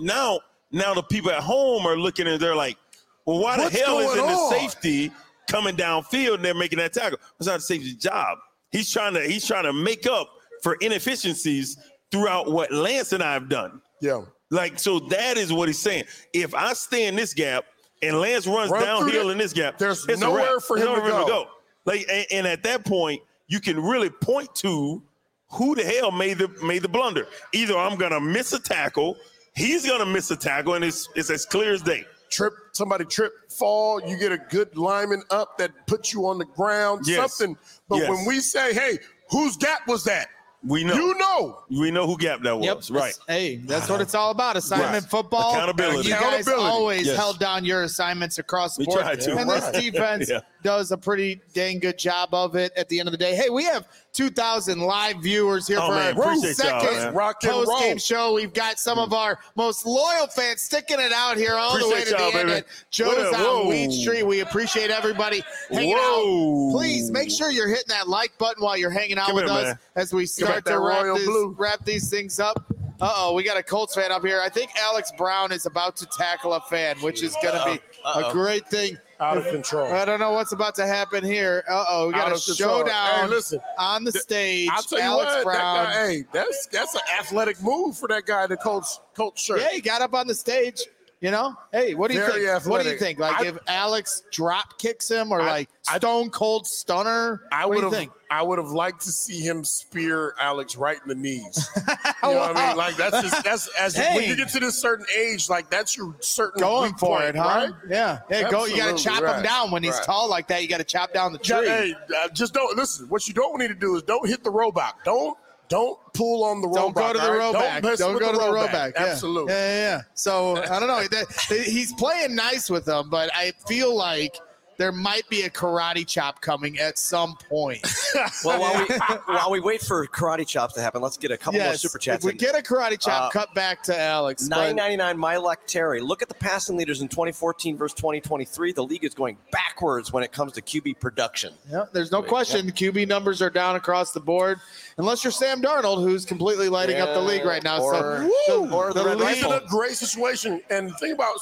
now the people at home are looking and they're like, well, why What's the hell going isn't the on? safety coming downfield and they're making that tackle? It's not the safety's job. He's trying to make up for inefficiencies throughout what Lance and I have done. Yeah. Like, so that is what he's saying. If I stay in this gap and Lance runs Run downhill through in this gap, there's it's a nowhere wrap. for There's him to nowhere go. Like, and at that point, you can really point to who the hell made the blunder. Either I'm gonna miss a tackle, he's gonna miss a tackle, and it's as clear as day. Somebody trip, fall, you get a good lineman up that puts you on the ground, Yes. something. But Yes. when we say, hey, whose gap was that? We know. You know. We know who gap that was. Right. Hey, that's what it's all about. Assignment football. Accountability. You guys Accountability. always Yes. held down your assignments across the We board. try to. And this Right. defense Yeah. does a pretty dang good job of it at the end of the day. Hey, we have 2,000 live viewers here Oh, for man, our appreciate y'all, second man. Rock and post-game roll. show. We've got some of our most loyal fans sticking it out here all the way Appreciate to y'all, the end baby. at Joe's What up? on Whoa. Weed Street. We appreciate everybody hanging Whoa. out. Please make sure you're hitting that like button while you're hanging out Come with here, us man. as we back start that to royal blue. wrap these things up. We got a Colts fan up here. I think Alex Brown is about to tackle a fan, which is going to be a great thing. Out of control. I don't know what's about to happen here. We got Out a of control. showdown Hey, listen, on the stage. I'll tell you Alex what, Brown. that guy, hey, that's an athletic move for that guy in the Colts shirt. Yeah, he got up on the stage. You know, hey, what do you Very think? What do you athletic. think? Like if Alex drop kicks him, or like stone cold stunner? I what would do you have think? I would have liked to see him spear Alex right in the knees. You know what I mean? Like that's when Hey. you get to this certain age, like that's your certain Going weak for point, it, huh? right? Yeah. Yeah, go. You got to Absolutely, chop him right, down when he's right. tall like that. You got to chop down the Yeah, tree. hey, just don't listen. What you don't need to do is don't hit the rollback. Don't pull on the rollback. Don't go to the all right? rollback. Don't, mess Don't with go to the rollback. rollback. Yeah. Absolutely. Yeah. So I don't know. He's playing nice with them, but I feel like there might be a karate chop coming at some point. Well, while we wait for karate chops to happen, let's get a couple more super chats. If we in. get a karate chop, cut back to Alex. but- $9.99 Mylec Terry. Look at the passing leaders in 2014 versus 2023. The league is going backwards when it comes to QB production. Yeah, there's no question. QB numbers are down across the board, unless you're Sam Darnold, who's completely lighting up the league right now. Or the Red He's in Rifle. a great situation. And think about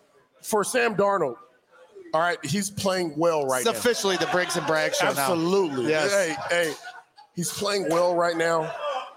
for Sam Darnold, all right, he's playing well right It's now. officially the Briggs and Bragg show now. Absolutely. Yes. Hey, he's playing well right now.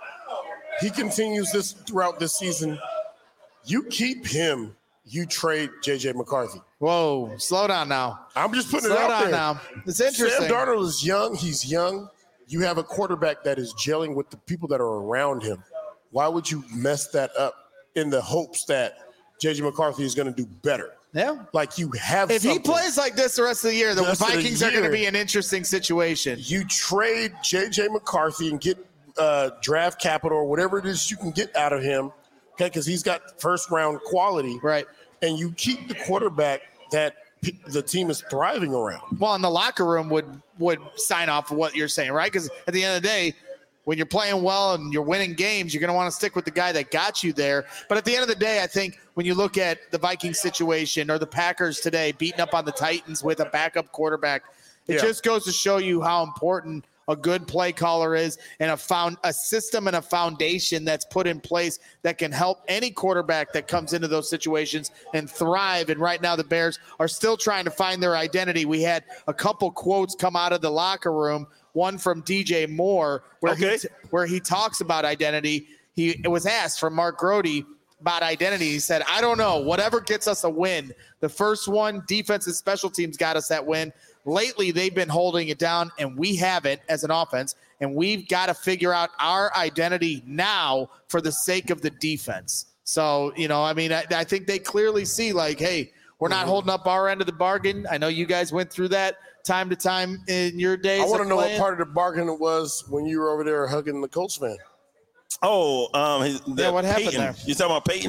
He continues this throughout this season. You keep him, you trade J.J. McCarthy. Whoa, slow down now. I'm just putting Slow it out down there. now. It's interesting. Sam Darnold is young. He's young. You have a quarterback that is gelling with the people that are around him. Why would you mess that up in the hopes that J.J. McCarthy is going to do better? Yeah. Like you have If he something. plays like this the rest of the year, the rest of the Vikings are going to year. be an interesting situation. You trade J.J. McCarthy and get draft capital or whatever it is you can get out of him, okay, because he's got first-round quality. Right. And you keep the quarterback that the team is thriving around. Well, and the locker room would sign off of what you're saying, right? Because at the end of the day, when you're playing well and you're winning games, you're going to want to stick with the guy that got you there. But at the end of the day, I think when you look at the Vikings situation or the Packers today beating up on the Titans with a backup quarterback, it just goes to show you how important a good play caller is and a system and a foundation that's put in place that can help any quarterback that comes into those situations and thrive. And right now the Bears are still trying to find their identity. We had a couple quotes come out of the locker room, one from DJ Moore where he talks about identity. It was asked from Mark Grody about identity. He said, I don't know, whatever gets us a win. The first one, defense and special teams got us that win. Lately, they've been holding it down, and we haven't as an offense, and we've got to figure out our identity now for the sake of the defense. So, I think they clearly see, like, hey, we're not holding up our end of the bargain. I know you guys went through that time to time in your days. I want to know playing. what part of the bargain it was when you were over there hugging the Colts fan. Oh, what happened Peyton. there? You talking about Peyton?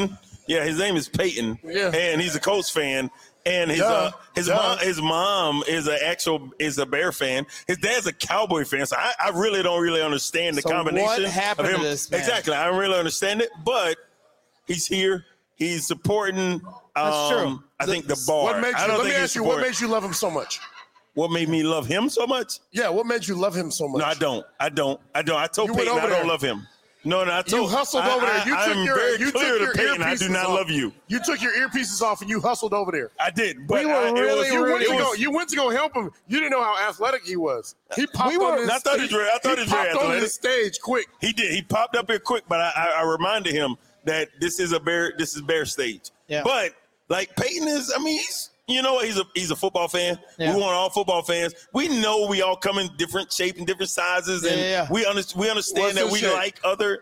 Yeah, his name is Peyton, and he's a Colts fan. And his mom is a Bear fan. His dad's a Cowboy fan. So I really don't understand the combination. What happened of him. to this man? Exactly, I don't really understand it. But he's here. He's supporting. That's true. I think the bar. Let me ask you, what makes you love him so much? What made me love him so much? Yeah, what made you love him so much? No, I don't. I told Peyton I don't love him. No, I told you hustled over there. I'm very clear to Peyton. I do not love you. You took your earpieces off and you hustled over there. I did, but you went to go help him. You didn't know how athletic he was. He popped on I thought he was very athletic. On the stage quick. He did. He popped up here quick, but I reminded him that this is Bear stage. Yeah. But like Peyton is, I mean, you know what? He's a football fan. Yeah. We want all football fans. We know we all come in different shapes and different sizes, and we understand that we like other.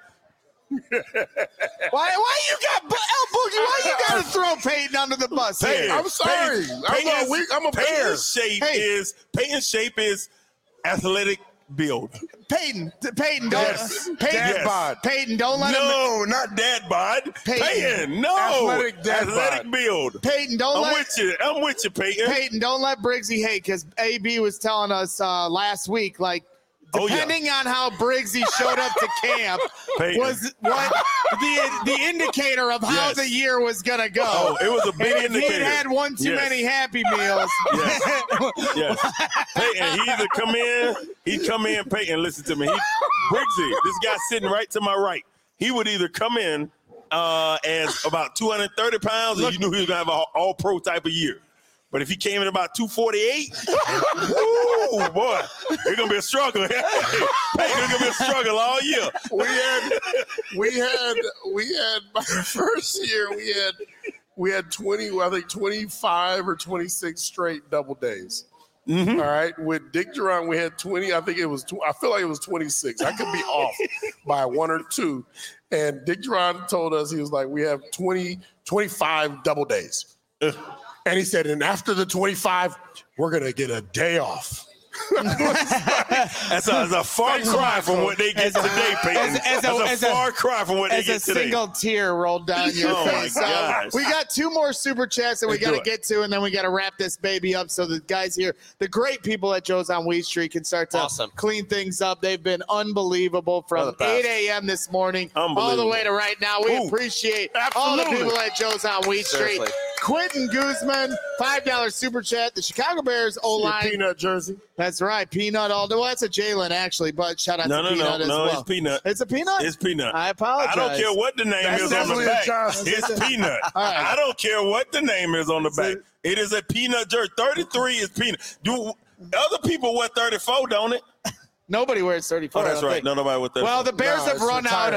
Why you got Boogie? Why you got to throw Peyton under the bus? Peyton, I'm sorry. I'm a Bear. Peyton's shape is athletic build. Peyton, don't. Yes. Peyton, Dad bod. Peyton, don't let him. No, not dad bod. Peyton. No. Athletic build. Peyton, don't I'm with you, Peyton. Peyton, don't let Briggsy hate, because AB was telling us last week, like, depending on how Briggsy showed up to camp was what the indicator of how the year was going to go. Oh, it was a big and indicator. If he had one too many Happy Meals. Yes. Peyton, he'd come in, Peyton, listen to me. Briggsy, this guy sitting right to my right, he would either come in as about 230 pounds, and you knew he was going to have an all-pro type of year. But if he came in about 248, ooh, boy, it's gonna be a struggle. It's gonna be a struggle all year. We had my first year. We had 25 or 26 straight double days. Mm-hmm. All right, with Dick Duran, we had 20. I think it was. I feel like it was 26. I could be off by 1 or 2. And Dick Duran told us, he was like, we have 25 double days. And he said, and after the 25, we're going to get a day off. That's a far cry from what they get today, Peyton. That's a far cry from what they get today. As a single tear rolled down your face. My gosh. We got 2 more super chats that we got to get to, and then we got to wrap this baby up so the guys here, the great people at Joe's on Weed Street, can start to clean things up. They've been unbelievable from 8 a.m. this morning all the way to right now. We appreciate all the people at Joe's on Weed Street. Quentin Guzman, $5 super chat. The Chicago Bears O-line. Peanut jersey. That's right. Peanut all day. Well, that's a Jalen, actually, but shout out to Peanut as well. No, it's Peanut. It's a Peanut? It's Peanut. I apologize. I don't care what the name is on the back. It's Peanut. I don't care what the name is on the back. It is a Peanut jersey. 33 is Peanut. Do other people wear 34, don't it? Nobody wears 34. Oh, that's right. No, nobody wears 34. Well, the Bears have run out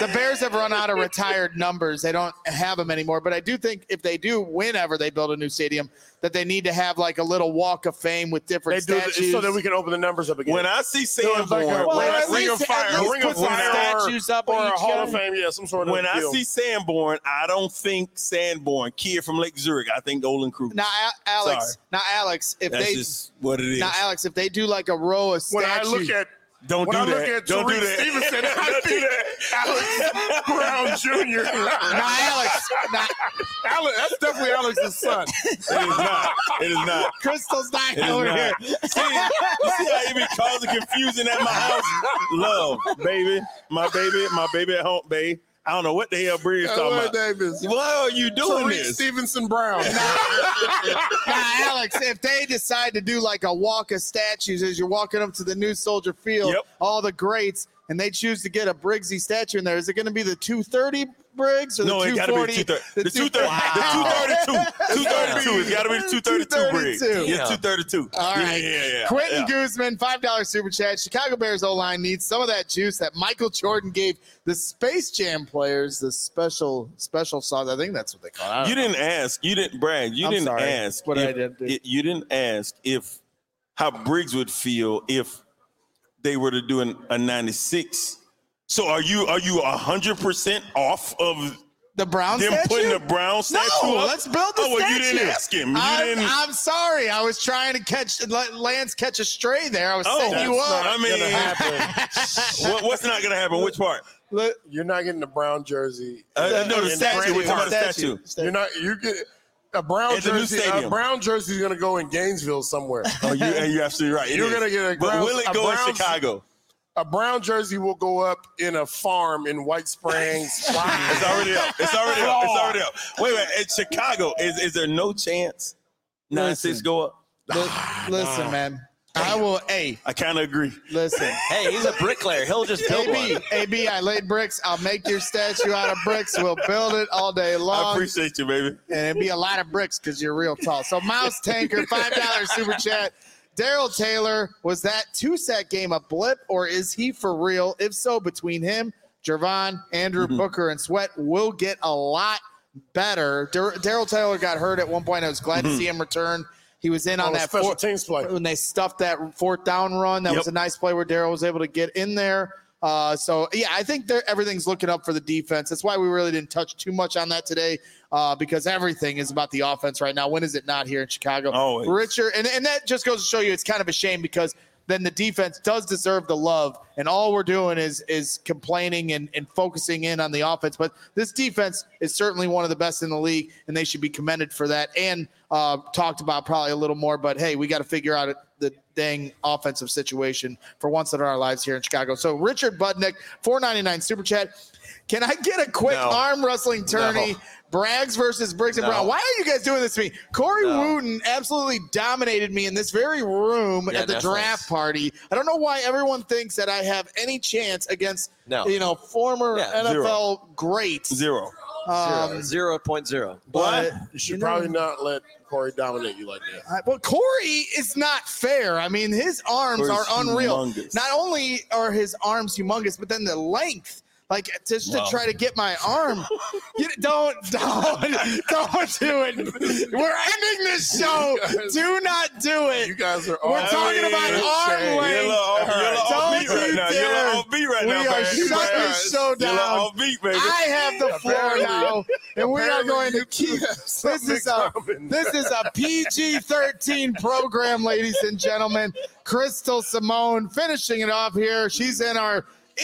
of retired numbers. They don't have them anymore. But I do think if they do, whenever they build a new stadium, that they need to have like a little walk of fame with different statues, so that we can open the numbers up again. When I see Sanborn, ring of fire, statues up, or a Hall of Fame, some sort of. When I see Sanborn, I don't think Sanborn, kid from Lake Zurich. I think Olin Cruz. Now, Alex, if that's just what it is. Now, Alex, if they do like a row of statues. Don't do that. Don't do that. Stevenson, I think Alex Brown Jr. Alex, that's definitely Alex's son. It is not. Crystal's not over here. See how you be causing confusion at my house? Love, baby. My baby at home, babe. I don't know what the hell Bree's talking about. Name is why are you doing this? Stevenson Brown. Now, Alex, if they decide to do like a walk of statues as you're walking up to the new Soldier Field, all the greats, and they choose to get a Briggsy statue in there, is it going to be the 230 Briggs or the 240? The 232. 232. It's got to be the 232 Briggs. Yeah, 232. All right. Yeah. Quentin Guzman, $5 super chat. Chicago Bears O-line needs some of that juice that Michael Jordan gave the Space Jam players, the special sauce. I think that's what they call it. You didn't ask. You didn't, Brad. You didn't ask. What I did. You didn't ask if how Briggs would feel if they were to do a 96. So are you 100% off of the Brown them statue? Putting the Brown statue up? Let's build the statue. You didn't ask him. I'm sorry. I was trying to let Lance catch a stray there. I was setting you up. I mean, what's not going to happen? Which part? You're not getting the Brown jersey. No, the statue. We're talking about the statue. You're not. You get a Brown At the new jersey. stadium. A Brown jersey is going to go in Gainesville somewhere. Oh, you're absolutely right. You're going to get a But will it go in Chicago? A Brown jersey will go up in a farm in White Springs. It's already up. It's already up. Wait. In Chicago, is there no chance 9-6 go up? Listen, man. I will. Hey, I kind of agree. listen. Hey, he's a bricklayer. He'll just build one. AB, I laid bricks. I'll make your statue out of bricks. We'll build it all day long. I appreciate you, baby. And it'd be a lot of bricks because you're real tall. So Mouse Tanker, $5 super chat. Daryl Taylor, was that 2-sack game a blip, or is he for real? If so, between him, Gervon, Andrew Booker, and Sweat will get a lot better. Daryl Taylor got hurt at one point. I was glad to see him return. He was in on that special teams play when they stuffed that 4th down run. That was a nice play where Daryl was able to get in there. So, yeah, I think everything's looking up for the defense. That's why we really didn't touch too much on that today because everything is about the offense right now. When is it not here in Chicago? Always. Richard, and that just goes to show you it's kind of a shame because then the defense does deserve the love, and all we're doing is complaining and focusing in on the offense. But this defense is certainly one of the best in the league, and they should be commended for that and talked about probably a little more. But, hey, we got to figure out the dang offensive situation for once in our lives here in Chicago. So Richard Budnick, $4.99 super chat. Can I get a quick arm wrestling tourney? No. Braggs versus Briggs and Brown. Why are you guys doing this to me? Corey Wooten absolutely dominated me in this very room at the draft party. I don't know why everyone thinks that I have any chance against, former NFL greats. 0.0. But you should probably not let Corey dominate you like that. Well, Corey is not fair. I mean, his arms are unreal. Humongous. Not only are his arms humongous, but then the length. Like just to try to get my arm. Don't do it. We're ending this show. Do not do it. You guys are We're talking about arm length. Don't you dare. We are shutting this show down. I have the floor now, and we are going to keep. This is a PG-13 program, ladies and gentlemen. Crystal Simone finishing it off here. She's in our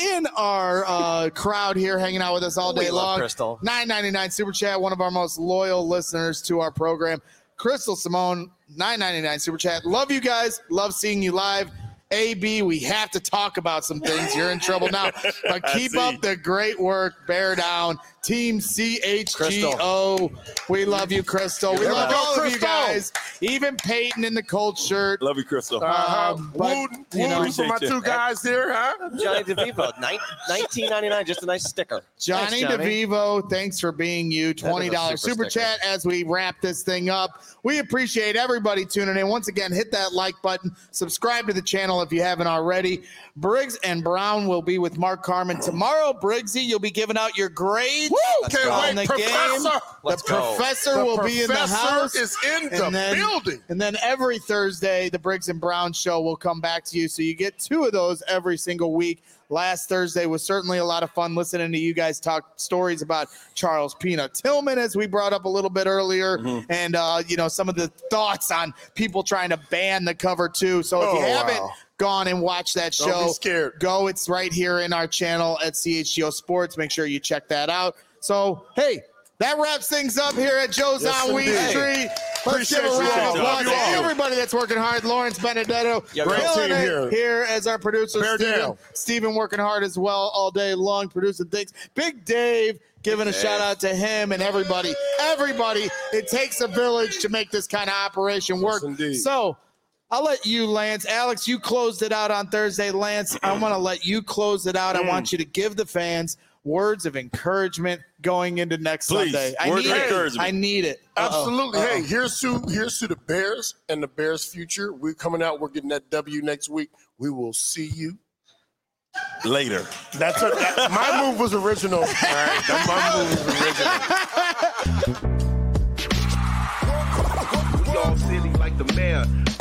crowd here, hanging out with us all day long. Crystal. $9.99 super chat, one of our most loyal listeners to our program. Crystal Simone, $9.99 super chat. Love you guys. Love seeing you live. AB, we have to talk about some things. You're in trouble now. But keep up the great work. Bear down. Team CHGO. Crystal. We love you, Crystal. We love all of you guys. Even Peyton in the cold shirt. Love you, Crystal. Wooten for my two guys there, huh? Johnny DeVivo, $19.99, just a nice sticker. Johnny DeVivo, thanks for being you. $20 super chat as we wrap this thing up. We appreciate everybody tuning in. Once again, hit that like button. Subscribe to the channel if you haven't already. Briggs and Brown will be with Mark Carman tomorrow. Briggsy, you'll be giving out your grades. Woo! Can't wait, Professor. The professor will be in the house. Is in the building. And then every Thursday, the Briggs and Brown show will come back to you. So you get 2 of those every single week. Last Thursday was certainly a lot of fun listening to you guys talk stories about Charles Peanut Tillman, as we brought up a little bit earlier, and some of the thoughts on people trying to ban the cover 2. So if you haven't gone and watched that show, don't be scared. Go. It's right here in our channel at CHGO Sports. Make sure you check that out. So, hey, that wraps things up here at Joe's on Weed Street. Let's give a round of applause to everybody that's working hard. Lawrence Benedetto, great team here as our producer. Steven working hard as well all day long, producing things. Big Dave giving a shout out to him and everybody. Everybody, it takes a village to make this kind of operation work. Yes, so I'll let you, Lance. Alex, you closed it out on Thursday. Lance, I want to let you close it out. I want you to give the fans words of encouragement going into next Sunday. I need it. Absolutely. Hey, here's to the Bears and the Bears' future. We're coming out. We're getting that W next week. We will see you later. My move was original. All right, my move was original. We all silly like the mayor.